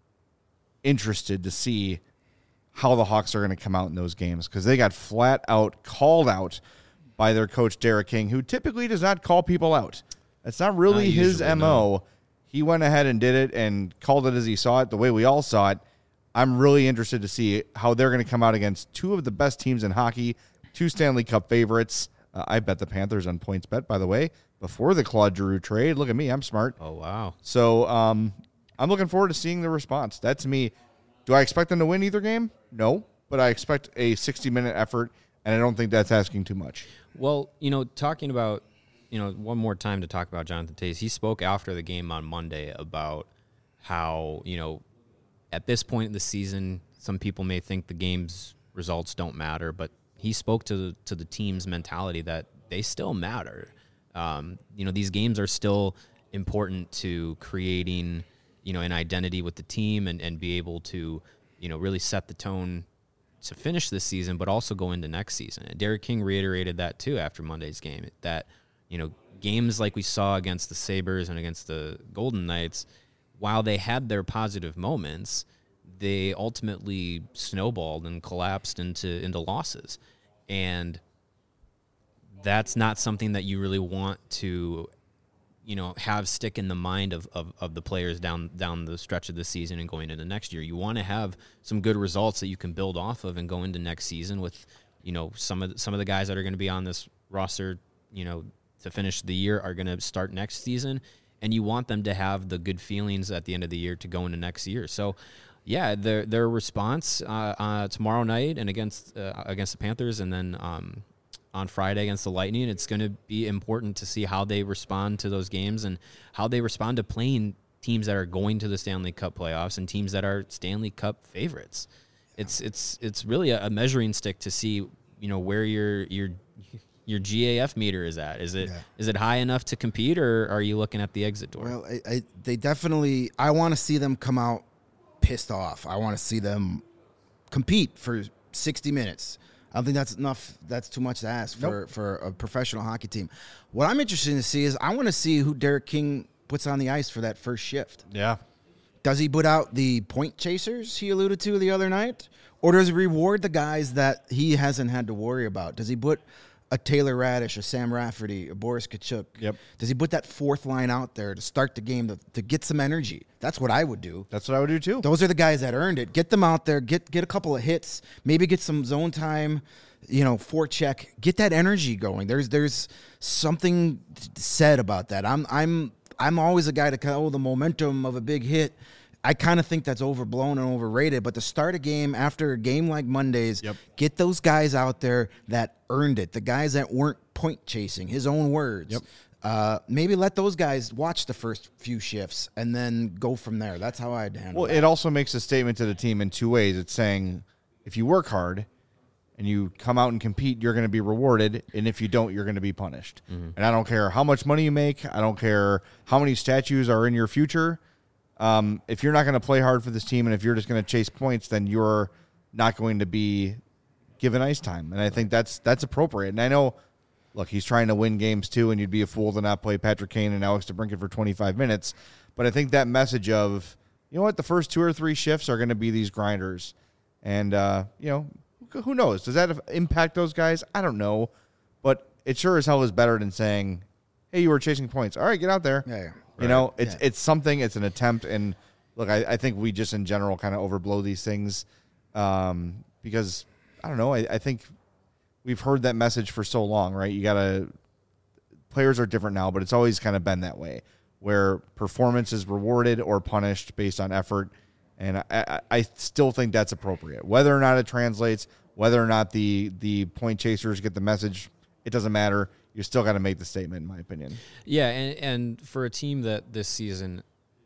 interested to see how the Hawks are going to come out in those games, because they got flat out called out by their coach, Derek King, who typically does not call people out. That's not really Not his usually, MO. no. He went ahead and did it and called it as he saw it, the way we all saw it. I'm really interested to see how they're going to come out against two of the best teams in hockey, two Stanley Cup favorites. I bet the Panthers on points bet, by the way, before the Claude Giroux trade. Look at me. I'm smart. Oh, wow. So I'm looking forward to seeing the response. That, to me, do I expect them to win either game? No, but I expect a 60-minute effort, and I don't think that's asking too much. Well, talking about, one more time to talk about Jonathan Taves, he spoke after the game on Monday about how, at this point in the season, some people may think the game's results don't matter, but he spoke to the team's mentality that they still matter. These games are still important to creating, an identity with the team and be able to, really set the tone to finish this season, but also go into next season. And Derek King reiterated that too after Monday's game, that, games like we saw against the Sabres and against the Golden Knights, while they had their positive moments, they ultimately snowballed and collapsed into losses. And that's not something that you really want to, have stick in the mind of the players down the stretch of the season and going into next year. You want to have some good results that you can build off of and go into next season with, some of the guys that are going to be on this roster, to finish the year are going to start next season, and you want them to have the good feelings at the end of the year to go into next year. So, yeah, their response tomorrow night and against the Panthers, and then on Friday against the Lightning, it's going to be important to see how they respond to those games and how they respond to playing teams that are going to the Stanley Cup playoffs and teams that are Stanley Cup favorites. It's really a measuring stick to see where your GAF meter is at. Is it high enough to compete, or are you looking at the exit door? Well, they definitely. I want to see them come out pissed off. I want to see them compete for 60 minutes. I don't think that's enough. That's too much to ask for a professional hockey team. What I'm interested to see is I want to see who Derek King puts on the ice for that first shift. Yeah. Does he put out the point chasers he alluded to the other night? Or does he reward the guys that he hasn't had to worry about? Does he put a Taylor Radish, a Sam Rafferty, a Boris Kachuk? Yep. Does he put that fourth line out there to start the game to get some energy? That's what I would do. That's what I would do too. Those are the guys that earned it. Get them out there. Get a couple of hits. Maybe get some zone time. Forecheck. Get that energy going. There's something said about that. I'm always a guy to the momentum of a big hit. I kind of think that's overblown and overrated. But to start a game after a game like Monday's, get those guys out there that earned it. The guys that weren't point chasing. His own words. Maybe let those guys watch the first few shifts and then go from there. That's how I'd handle it. Well, it also makes a statement to the team in two ways. It's saying if you work hard and you come out and compete, you're going to be rewarded. And if you don't, you're going to be punished. And I don't care how much money you make. I don't care how many statues are in your future. If you're not going to play hard for this team and if you're just going to chase points, then you're not going to be given ice time. And I think that's appropriate. And I know, look, he's trying to win games too, and you'd be a fool to not play Patrick Kane and Alex DeBrincat for 25 minutes. But I think that message of, you know what, the first 2 or 3 shifts are going to be these grinders. And, who knows? Does that impact those guys? I don't know. But it sure as hell is better than saying, hey, you were chasing points. All right, get out there. Yeah. It's something. It's an attempt. And, look, I think we just in general kind of overblow these things because, I don't know, I think we've heard that message for so long, right? Players are different now, but it's always kind of been that way where performance is rewarded or punished based on effort. And I still think that's appropriate. Whether or not it translates, whether or not the point chasers get the message, it doesn't matter. You still got to make the statement, in my opinion. Yeah, and for a team that this season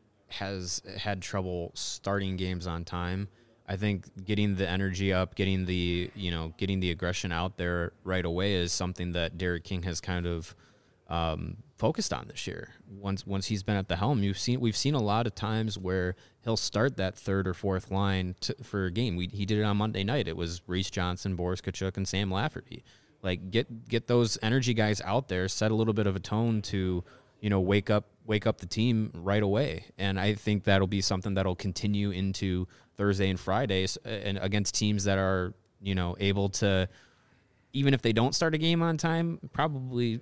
has had trouble starting games on time, I think getting the energy up, getting the aggression out there right away is something that Derek King has kind of focused on this year. Once he's been at the helm, we've seen a lot of times where he'll start that third or fourth line for a game. He did it on Monday night. It was Reese Johnson, Boris Kachuk, and Sam Lafferty. Like get those energy guys out there, set a little bit of a tone to wake up the team right away. And I think that'll be something that'll continue into Thursday and Fridays and against teams that are able to, even if they don't start a game on time, probably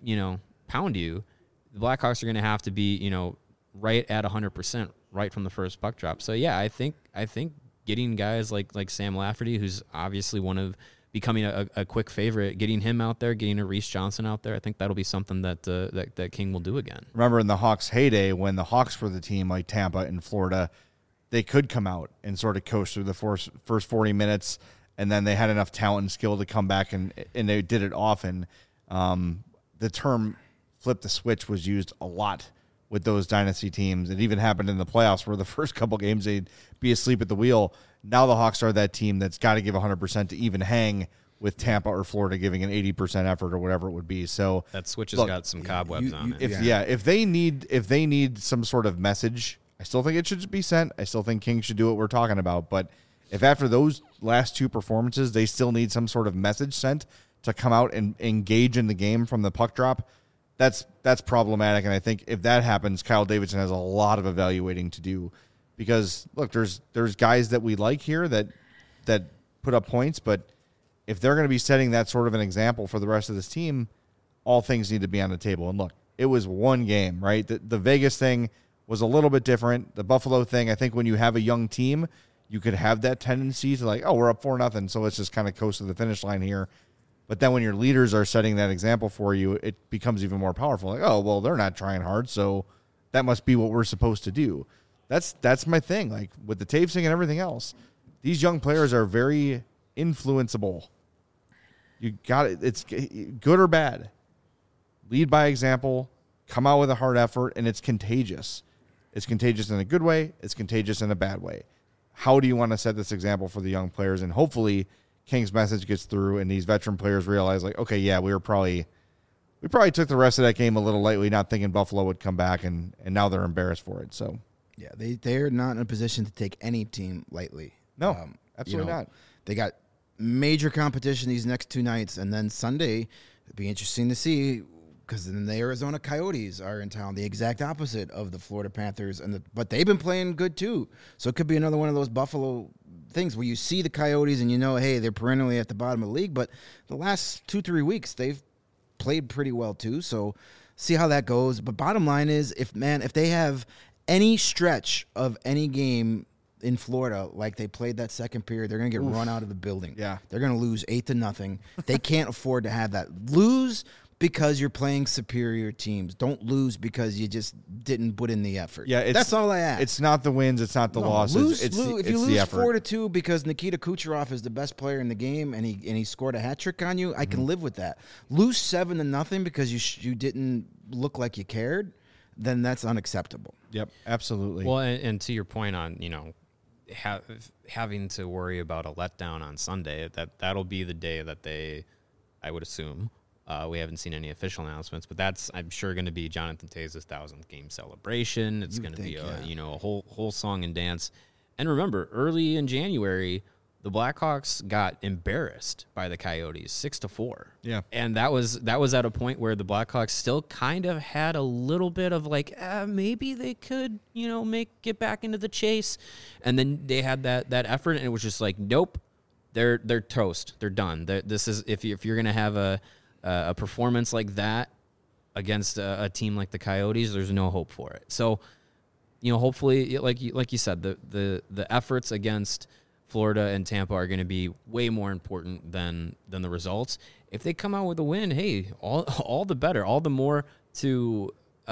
pound you. The Blackhawks are going to have to be right at 100% right from the first puck drop. So yeah, I think getting guys like Sam Lafferty, who's obviously becoming a quick favorite, getting him out there, getting a Reese Johnson out there, I think that'll be something that King will do again. Remember in the Hawks' heyday, when the Hawks were the team like Tampa and Florida, they could come out and sort of coast through the first 40 minutes, and then they had enough talent and skill to come back, and they did it often. The term flip the switch was used a lot with those dynasty teams. It even happened in the playoffs where the first couple games they'd be asleep at the wheel. Now the Hawks are that team that's got to give 100% to even hang with Tampa or Florida giving an 80% effort or whatever it would be. So that switch has got some cobwebs on it. If they need some sort of message, I still think it should be sent. I still think King should do what we're talking about. But if after those last 2 performances they still need some sort of message sent to come out and engage in the game from the puck drop, that's problematic. And I think if that happens, Kyle Davidson has a lot of evaluating to do. Because look, there's guys that we like here that put up points, but if they're going to be setting that sort of an example for the rest of this team, all things need to be on the table. And look, it was one game, right? The Vegas thing was a little bit different. The Buffalo thing, I think when you have a young team, you could have that tendency to we're up 4-0, so let's just kind of coast to the finish line here. But then when your leaders are setting that example for you, it becomes even more powerful. They're not trying hard, so that must be what we're supposed to do. That's my thing. Like with the Taves thing and everything else, these young players are very influenceable. You got it. It's good or bad. Lead by example. Come out with a hard effort, and it's contagious. It's contagious in a good way. It's contagious in a bad way. How do you want to set this example for the young players? And hopefully, King's message gets through, and these veteran players realize, okay, yeah, we probably took the rest of that game a little lightly, not thinking Buffalo would come back, and now they're embarrassed for it. So. Yeah, they're not in a position to take any team lightly. No, absolutely not. They got major competition these next 2 nights, and then Sunday, it'll be interesting to see because then the Arizona Coyotes are in town, the exact opposite of the Florida Panthers, but they've been playing good too. So it could be another one of those Buffalo things where you see the Coyotes and you know, hey, they're perennially at the bottom of the league, but the last 2-3 weeks they've played pretty well too. So see how that goes. But bottom line is, if they have any stretch of any game in Florida, like they played that second period, they're going to get run out of the building. Yeah. They're going to lose 8-0. They can't afford to have that. Lose because you're playing superior teams. Don't lose because you just didn't put in the effort. Yeah, that's all I ask. It's not the wins, it's not the losses. It's if you the lose effort. 4-2 because Nikita Kucherov is the best player in the game and he scored a hat trick on you, I can live with that. Lose 7-0 because you didn't look like you cared, then that's unacceptable. Yep, absolutely. Well, and to your point on, having to worry about a letdown on Sunday, that'll be the day that I would assume. We haven't seen any official announcements, but that's, I'm sure, going to be Jonathan Taves' 1,000th game celebration. It's going to be a whole song and dance. And remember, early in January, the Blackhawks got embarrassed by the Coyotes 6-4. Yeah. And that was at a point where the Blackhawks still kind of had a little bit of like, maybe they could, get back into the chase. And then they had that effort, and it was just like, nope, they're toast. They're done. This is, if you're going to have a performance like that against a team like the Coyotes, there's no hope for it. So, hopefully, like you said, the efforts against Florida and Tampa are going to be way more important than the results. If they come out with a win, hey, all the better, all the more to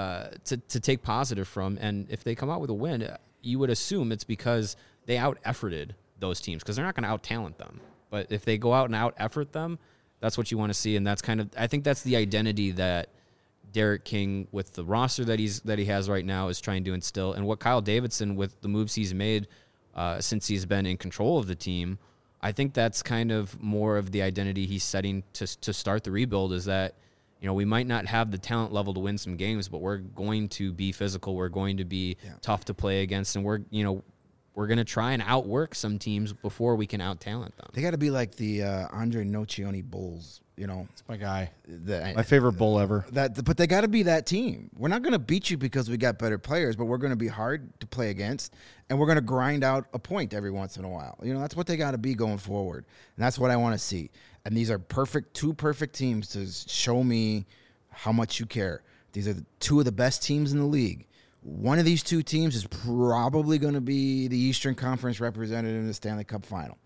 take positive from. And if they come out with a win, you would assume it's because they out-efforted those teams, because they're not going to out-talent them. But if they go out and out-effort them, that's what you want to see, and that's I think that's the identity that Derek King, with the roster that he has right now, is trying to instill, and what Kyle Davidson, with the moves he's made since he's been in control of the team, I think that's kind of more of the identity he's setting to start the rebuild. Is that we might not have the talent level to win some games, but we're going to be physical, we're going to be tough to play against, and we're going to try and outwork some teams before we can out-talent them. They got to be like the Andre Nocioni Bulls, It's my guy. My My favorite bull ever. But they got to be that team. We're not going to beat you because we got better players, but we're going to be hard to play against, and we're going to grind out a point every once in a while. That's what they got to be going forward, and that's what I want to see. And these are two perfect teams to show me how much you care. These are two of the best teams in the league. One of these two teams is probably going to be the Eastern Conference representative in the Stanley Cup final.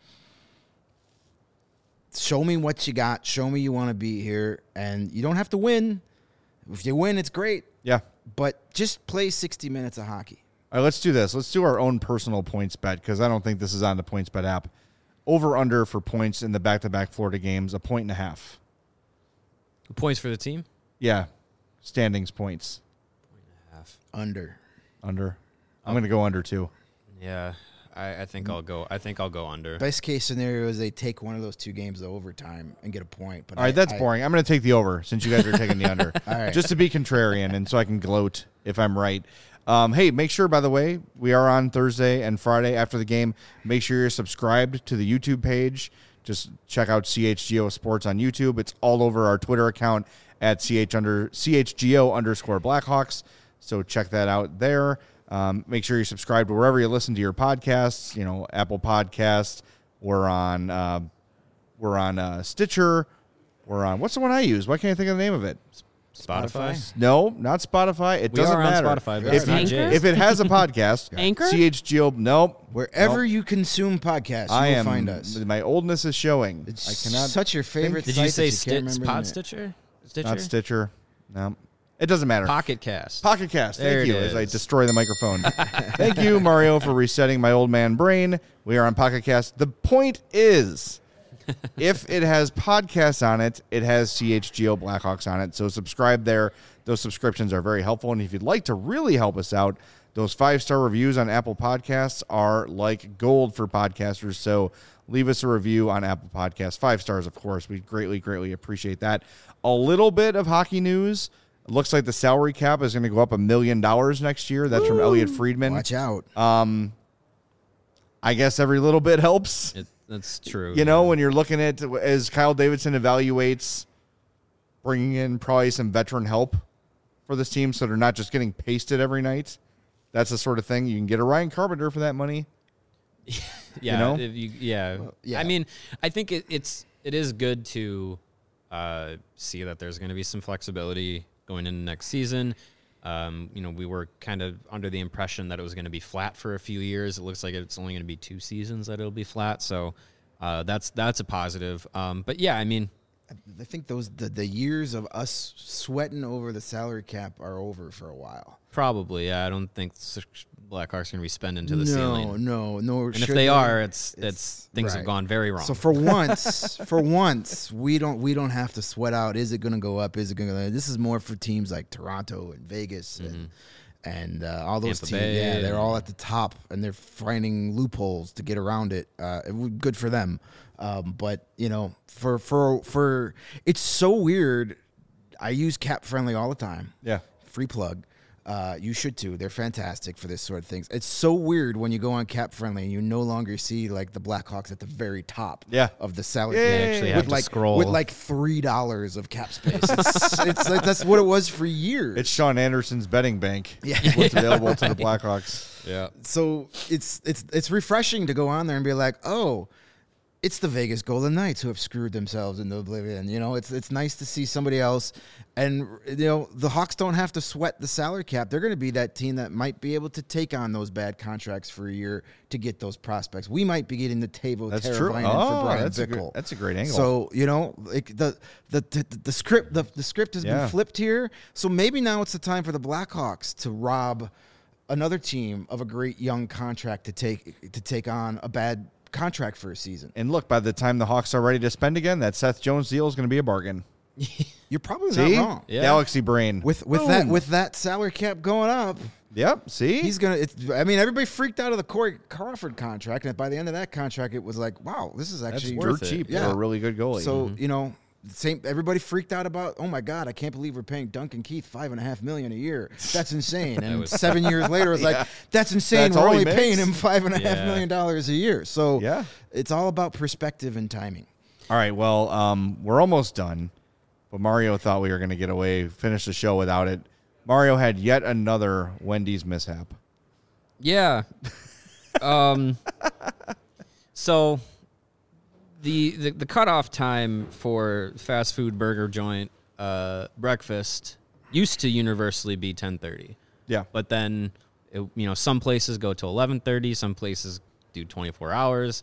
Show me what you got. Show me you want to be here. And you don't have to win. If you win, it's great. Yeah. But just play 60 minutes of hockey. All right, let's do this. Let's do our own personal points bet, because I don't think this is on the PointsBet app. Over-under for points in the back-to-back Florida games, 1.5. Points for the team? Yeah. Standings points. Under. I'm going to go under, too. Yeah, I think I'll go. I think I'll go under. Best case scenario is they take one of those two games to overtime and get a point. But All right, that's boring. I'm going to take the over since you guys are taking the under. All right. Just to be contrarian and so I can gloat if I'm right. Hey, make sure, by the way, we are on Thursday and Friday after the game. Make sure you're subscribed to the YouTube page. Just check out CHGO Sports on YouTube. It's all over our Twitter account at CHGO_Blackhawks. So check that out there. Make sure you subscribe to wherever you listen to your podcasts. Apple Podcasts. We're on Stitcher. We're on, what's the one I use? Why can't I think of the name of it? Spotify? No, not Spotify. It We doesn't are on matter. Spotify, but If, it's not Jay's. if it has a podcast, Anchor? CHGO. Nope. Wherever you consume podcasts, I you will am. find us. My oldness is showing. It's I cannot. such your favorite Did site you say that you can't remember the Pod name. Stitcher? Not Stitcher. No. It doesn't matter. Pocket Cast. Pocket Cast. There Thank it you. As I is. destroy the microphone. Thank you, Mario, for resetting my old man brain. We are on Pocket Cast. The point is, if it has podcasts on it, it has CHGO Blackhawks on it. So subscribe there. Those subscriptions are very helpful. And if you'd like to really help us out, those 5-star reviews on Apple Podcasts are like gold for podcasters. So leave us a review on Apple Podcasts. 5 stars, of course. We greatly, greatly appreciate that. A little bit of hockey news. It looks like the salary cap is going to go up $1 million next year. That's from Elliot Friedman. Watch out. I guess every little bit helps. That's true. When you're looking at, as Kyle Davidson evaluates bringing in probably some veteran help for this team so they're not just getting pasted every night. That's the sort of thing. You can get a Ryan Carpenter for that money. Yeah, You know? yeah. I mean, I think it is good to see that there's going to be some flexibility going into next season. We were kind of under the impression that it was going to be flat for a few years. It looks like it's only going to be 2 seasons that it'll be flat. So that's a positive. But yeah, I mean, I think the years of us sweating over the salary cap are over for a while. probably. Yeah, I don't think Blackhawks are going to be spending to the ceiling. No. And if they are, it's things have right. gone very wrong. So for once, we don't have to sweat out. Is it going to go up? Is it going to? This is more for teams like Toronto and Vegas and all those Tampa teams. Bay, Yeah, they're all at the top and they're finding loopholes to get around it. Good for them. But for it's so weird. I use Cap Friendly all the time. Yeah. Free plug. You should too. They're fantastic for this sort of things. It's so weird when you go on Cap Friendly and you no longer see like the Blackhawks at the very top of the salary Yeah, cap you actually have to scroll. with like $3 of cap space. It's like that's what it was for years. It's Sean Anderson's betting bank. Yeah. What's available to the Blackhawks. yeah. So it's refreshing to go on there and be like, oh, it's the Vegas Golden Knights who have screwed themselves into oblivion. It's nice to see somebody else. And, the Hawks don't have to sweat the salary cap. They're going to be that team that might be able to take on those bad contracts for a year to get those prospects. We might be getting the Teuvo That's true. Teravainen for Brian that's Bickle. that's a great angle. So, the script has been flipped here. So maybe now it's the time for the Blackhawks to rob another team of a great young contract to take on a bad contract for a season. And look, by the time the Hawks are ready to spend again, that Seth Jones deal is going to be a bargain. You're probably See? not wrong. Yeah. Galaxy brain. With that salary cap going up, Yep. See? he's gonna. Everybody freaked out of the Corey Crawford contract, and by the end of that contract, it was like, wow, this is That's actually dirt cheap Yeah. for a really good goalie. So same. Everybody freaked out about. Oh my God, I can't believe we're paying Duncan Keith $5.5 million a year. That's insane. And 7 years later, it's like that's insane. That's we're all he only paying makes? him $5.5 million a year. So Yeah. it's all about perspective and timing. All right, well, we're almost done, but Mario thought we were going to finish the show without it. Mario had yet another Wendy's mishap. Yeah. So the cutoff time for fast food burger joint breakfast used to universally be 10:30. Yeah. But then some places go to 11:30, some places do 24 hours.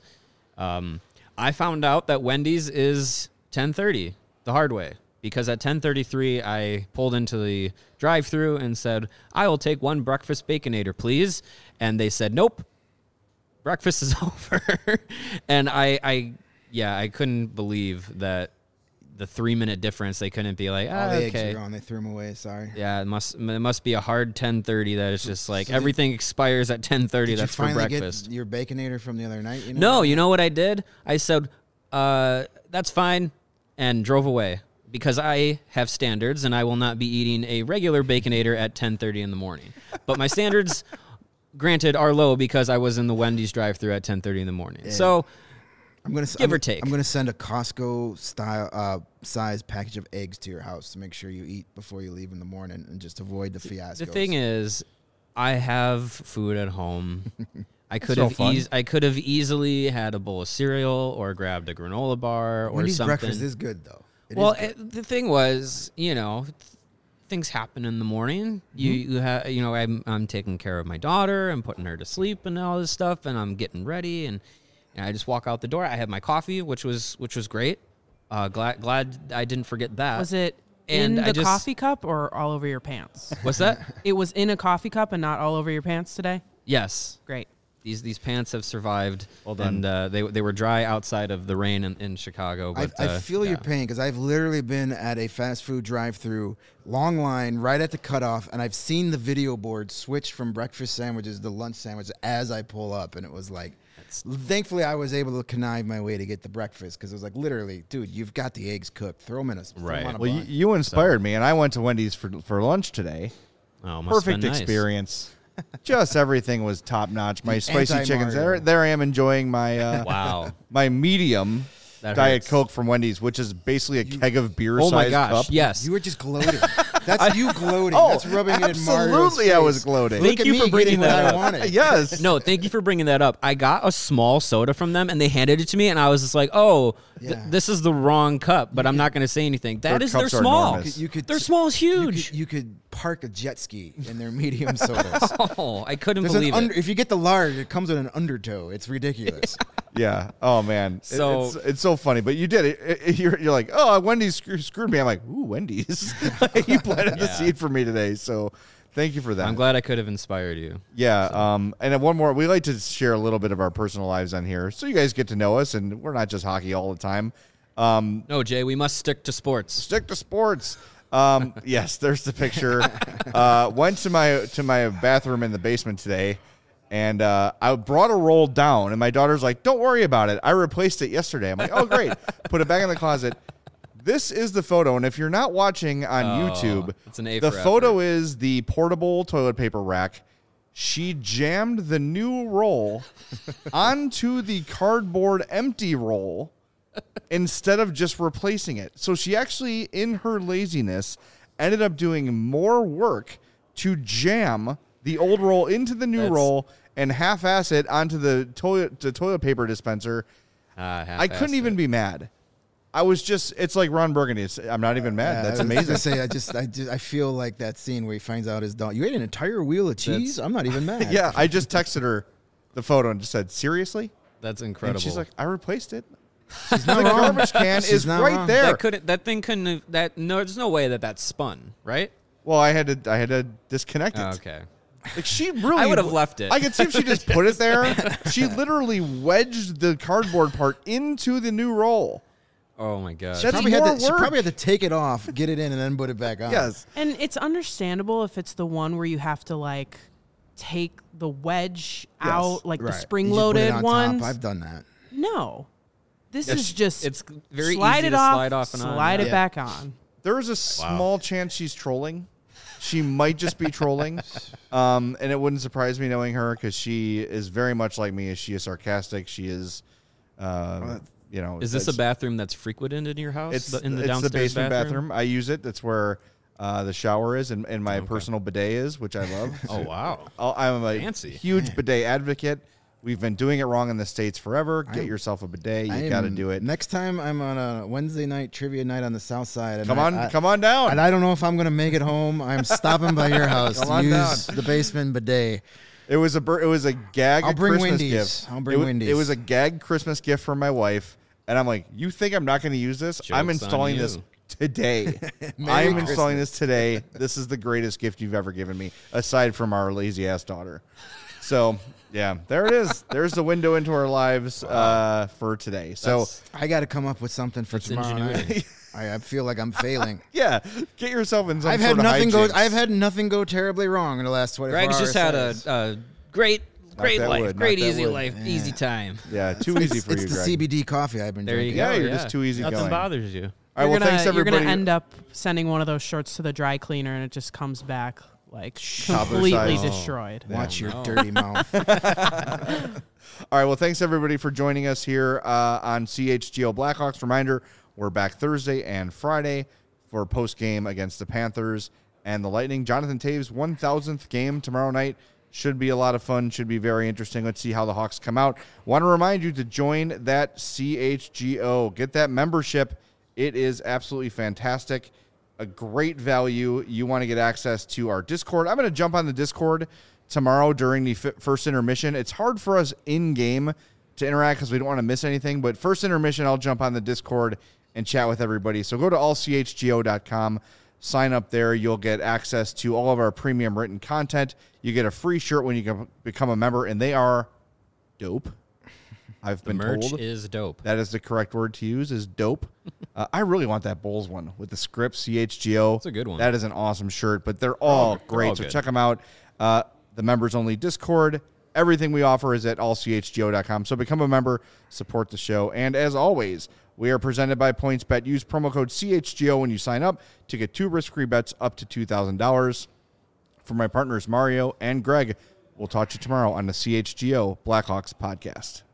I found out that Wendy's is 10:30 the hard way, because at 10:33 I pulled into the drive-thru and said, "I will take one breakfast Baconator, please." And they said, "Nope. Breakfast is over." And I couldn't believe that the 3-minute difference. They couldn't be like, All the eggs okay. are gone. They threw them away. Sorry. Yeah, it must be a hard 10:30 that it's just like everything expires at 10:30. Did That's you for finally breakfast. get your Baconator from the other night? No, you know what I did? I said, that's fine, and drove away, because I have standards and I will not be eating a regular Baconator at 10:30 in the morning. But my standards, granted, are low because I was in the Wendy's drive-thru at 10:30 in the morning. Yeah. So Give or take. I'm gonna send a Costco style size package of eggs to your house to make sure you eat before you leave in the morning and just avoid the fiasco. the thing is, I have food at home. I could no have fun. I could have easily had a bowl of cereal or grabbed a granola bar or Wendy's something. breakfast is good though. It Well, is good. the thing was, things happen in the morning. You have, I'm taking care of my daughter. I'm putting her to sleep and all this stuff, and I'm getting ready, and I just walk out the door. I had my coffee, which was great. Glad I didn't forget that. Was it And in I the just- coffee cup or all over your pants? What's that? It was in a coffee cup and not all over your pants today? Yes. Great. These pants have survived. Well done. And they were dry outside of the rain in Chicago. But I feel your pain because I've literally been at a fast food drive-through, long line, right at the cutoff, and I've seen the video board switch from breakfast sandwiches to lunch sandwiches as I pull up, and it was like, thankfully I was able to connive my way to get the breakfast because it was like, literally, dude, you've got the eggs cooked. Throw them in a Right. Throw 'em on a Well, bun. you inspired me, and I went to Wendy's for lunch today. Oh, must have Perfect been nice. experience. Just everything was top notch. My spicy chickens. anti-Mario. There I am enjoying my Wow. my medium That Diet hurts. Coke from Wendy's, which is basically a keg of beer Oh my sized gosh! cup. Yes. You were just gloating. That's you gloating. Oh, That's rubbing it in Mario's absolutely, I was face. gloating. Look Thank at you me for bringing getting what that I up. wanted. Yes. No, thank you for bringing that up. I got a small soda from them, and they handed it to me, and I was just like, "Oh, Yeah. this is the wrong cup." But I'm not going to say anything. Their They're cups are small. enormous. Their small is huge. You could park a jet ski in their medium sodas. Oh, I couldn't There's an believe it. if you get the large, it comes with an undertow. It's ridiculous. Yeah. Oh man. So- it's so funny, but you did it. You're like, oh, Wendy's screwed me. I'm like, ooh, Wendy's. You planted the seed for me today. So thank you for that. I'm glad I could have inspired you. Yeah. And then one more. We like to share a little bit of our personal lives on here, so you guys get to know us, and we're not just hockey all the time. No, Jay, we must stick to sports. Stick to sports. Yes, there's the picture. Went to my bathroom in the basement today, and I brought a roll down, and my daughter's like, "Don't worry about it. I replaced it yesterday." I'm like, "Oh, great." Put it back in the closet. This is the photo, and if you're not watching on YouTube, it's an A the for photo is the portable toilet paper rack. She jammed the new roll onto the cardboard empty roll instead of just replacing it. So she actually, in her laziness, ended up doing more work to jam the old roll into the new roll and half-ass it onto the toilet paper dispenser. I couldn't even be mad. I was just, it's like Ron Burgundy. I'm not even mad. That's I was amazing. gonna say, I feel like that scene where he finds out his dog. You ate an entire wheel of cheese. I'm not even mad. Yeah, I just texted her the photo and just said, seriously? That's And incredible. she's like, I replaced it. She's The not wrong. garbage can She's is not right wrong. there. that thing couldn't have, there's no way that spun, right? Well, I had to disconnect it. Oh, okay. Like she really, I would have left it. I could see if she just put it there. She literally wedged the cardboard part into the new roll. Oh my god. That's Probably more had to, she work. probably had to take it off, get it in, and then put it back on. Yes. And it's understandable if it's the one where you have to like take the wedge out, like Right. the You spring-loaded just put it on ones. top. I've done that. No, this is just it's very slide easy it to off, slide off and on. slide it Yeah. back on. There is a small chance she's trolling. She might just be trolling. And it wouldn't surprise me knowing her because she is very much like me. She is sarcastic. She is, you know. Is this a it's- bathroom that's frequented in your house? It's in the it's downstairs the basement bathroom. I use it. That's where the shower is and my personal bidet is, which I love. Oh wow. I'm a Fancy. huge bidet advocate. We've been doing it wrong in the States forever. Get yourself a bidet. You got to do it. Next time I'm on a Wednesday night trivia night on the South Side. And Come on down. And I don't know if I'm going to make it home. I'm stopping by your house Come to on use down. the basement bidet. It was a gag I'll bring Christmas Wendy's. gift. I'll bring it, Wendy's. It was a gag Christmas gift for my wife, and I'm like, you think I'm not going to use this? I'm Joke's on installing you. this today. Merry I'm installing Christmas. this today. This is the greatest gift you've ever given me, aside from our lazy ass daughter. So yeah, there it is. There's the window into our lives for today. So That's- I got to come up with something for tomorrow ingenuity. night. I feel like I'm failing. yeah, get yourself in some I've sort had of nothing go. hijinks. I've had nothing go terribly wrong in the last 24 Greg's hours. just had a great that life, wood, great knock that easy wood. life, easy time. Yeah, too easy for It's you, the Greg. CBD coffee I've been There you drinking. go. Yeah, you're just too easy Nothing going. bothers you. All right, well, You're thanks gonna everybody. end up sending one of those shirts to the dry cleaner, and it just comes back like Toddler completely size. destroyed. Watch your dirty mouth. All right, well, thanks everybody for joining us here on CHGO Blackhawks. Reminder, we're back Thursday and Friday for post game against the Panthers and the Lightning. Jonathan Taves' 1,000th game tomorrow night. Should be a lot of fun. Should be very interesting. Let's see how the Hawks come out. Want to remind you to join that CHGO. Get that membership. It is absolutely fantastic. A great value. You want to get access to our Discord. I'm going to jump on the Discord tomorrow during the first intermission. It's hard for us in-game to interact because we don't want to miss anything. But first intermission, I'll jump on the Discord and chat with everybody. So go to allchgo.com. Sign up there. You'll get access to all of our premium written content. You get a free shirt when you can become a member, and they are dope. I've The been merch told is dope. that is the correct word to use, is dope. I really want that Bulls one with the script, CHGO. It's a good one. That is an awesome shirt, but they're all great, all so good. check them out. The members-only Discord. Everything we offer is at allchgo.com. So become a member, support the show. And as always, we are presented by PointsBet. Use promo code CHGO when you sign up to get 2 risk-free bets up to $2,000. For my partners, Mario and Greg, we'll talk to you tomorrow on the CHGO Blackhawks podcast.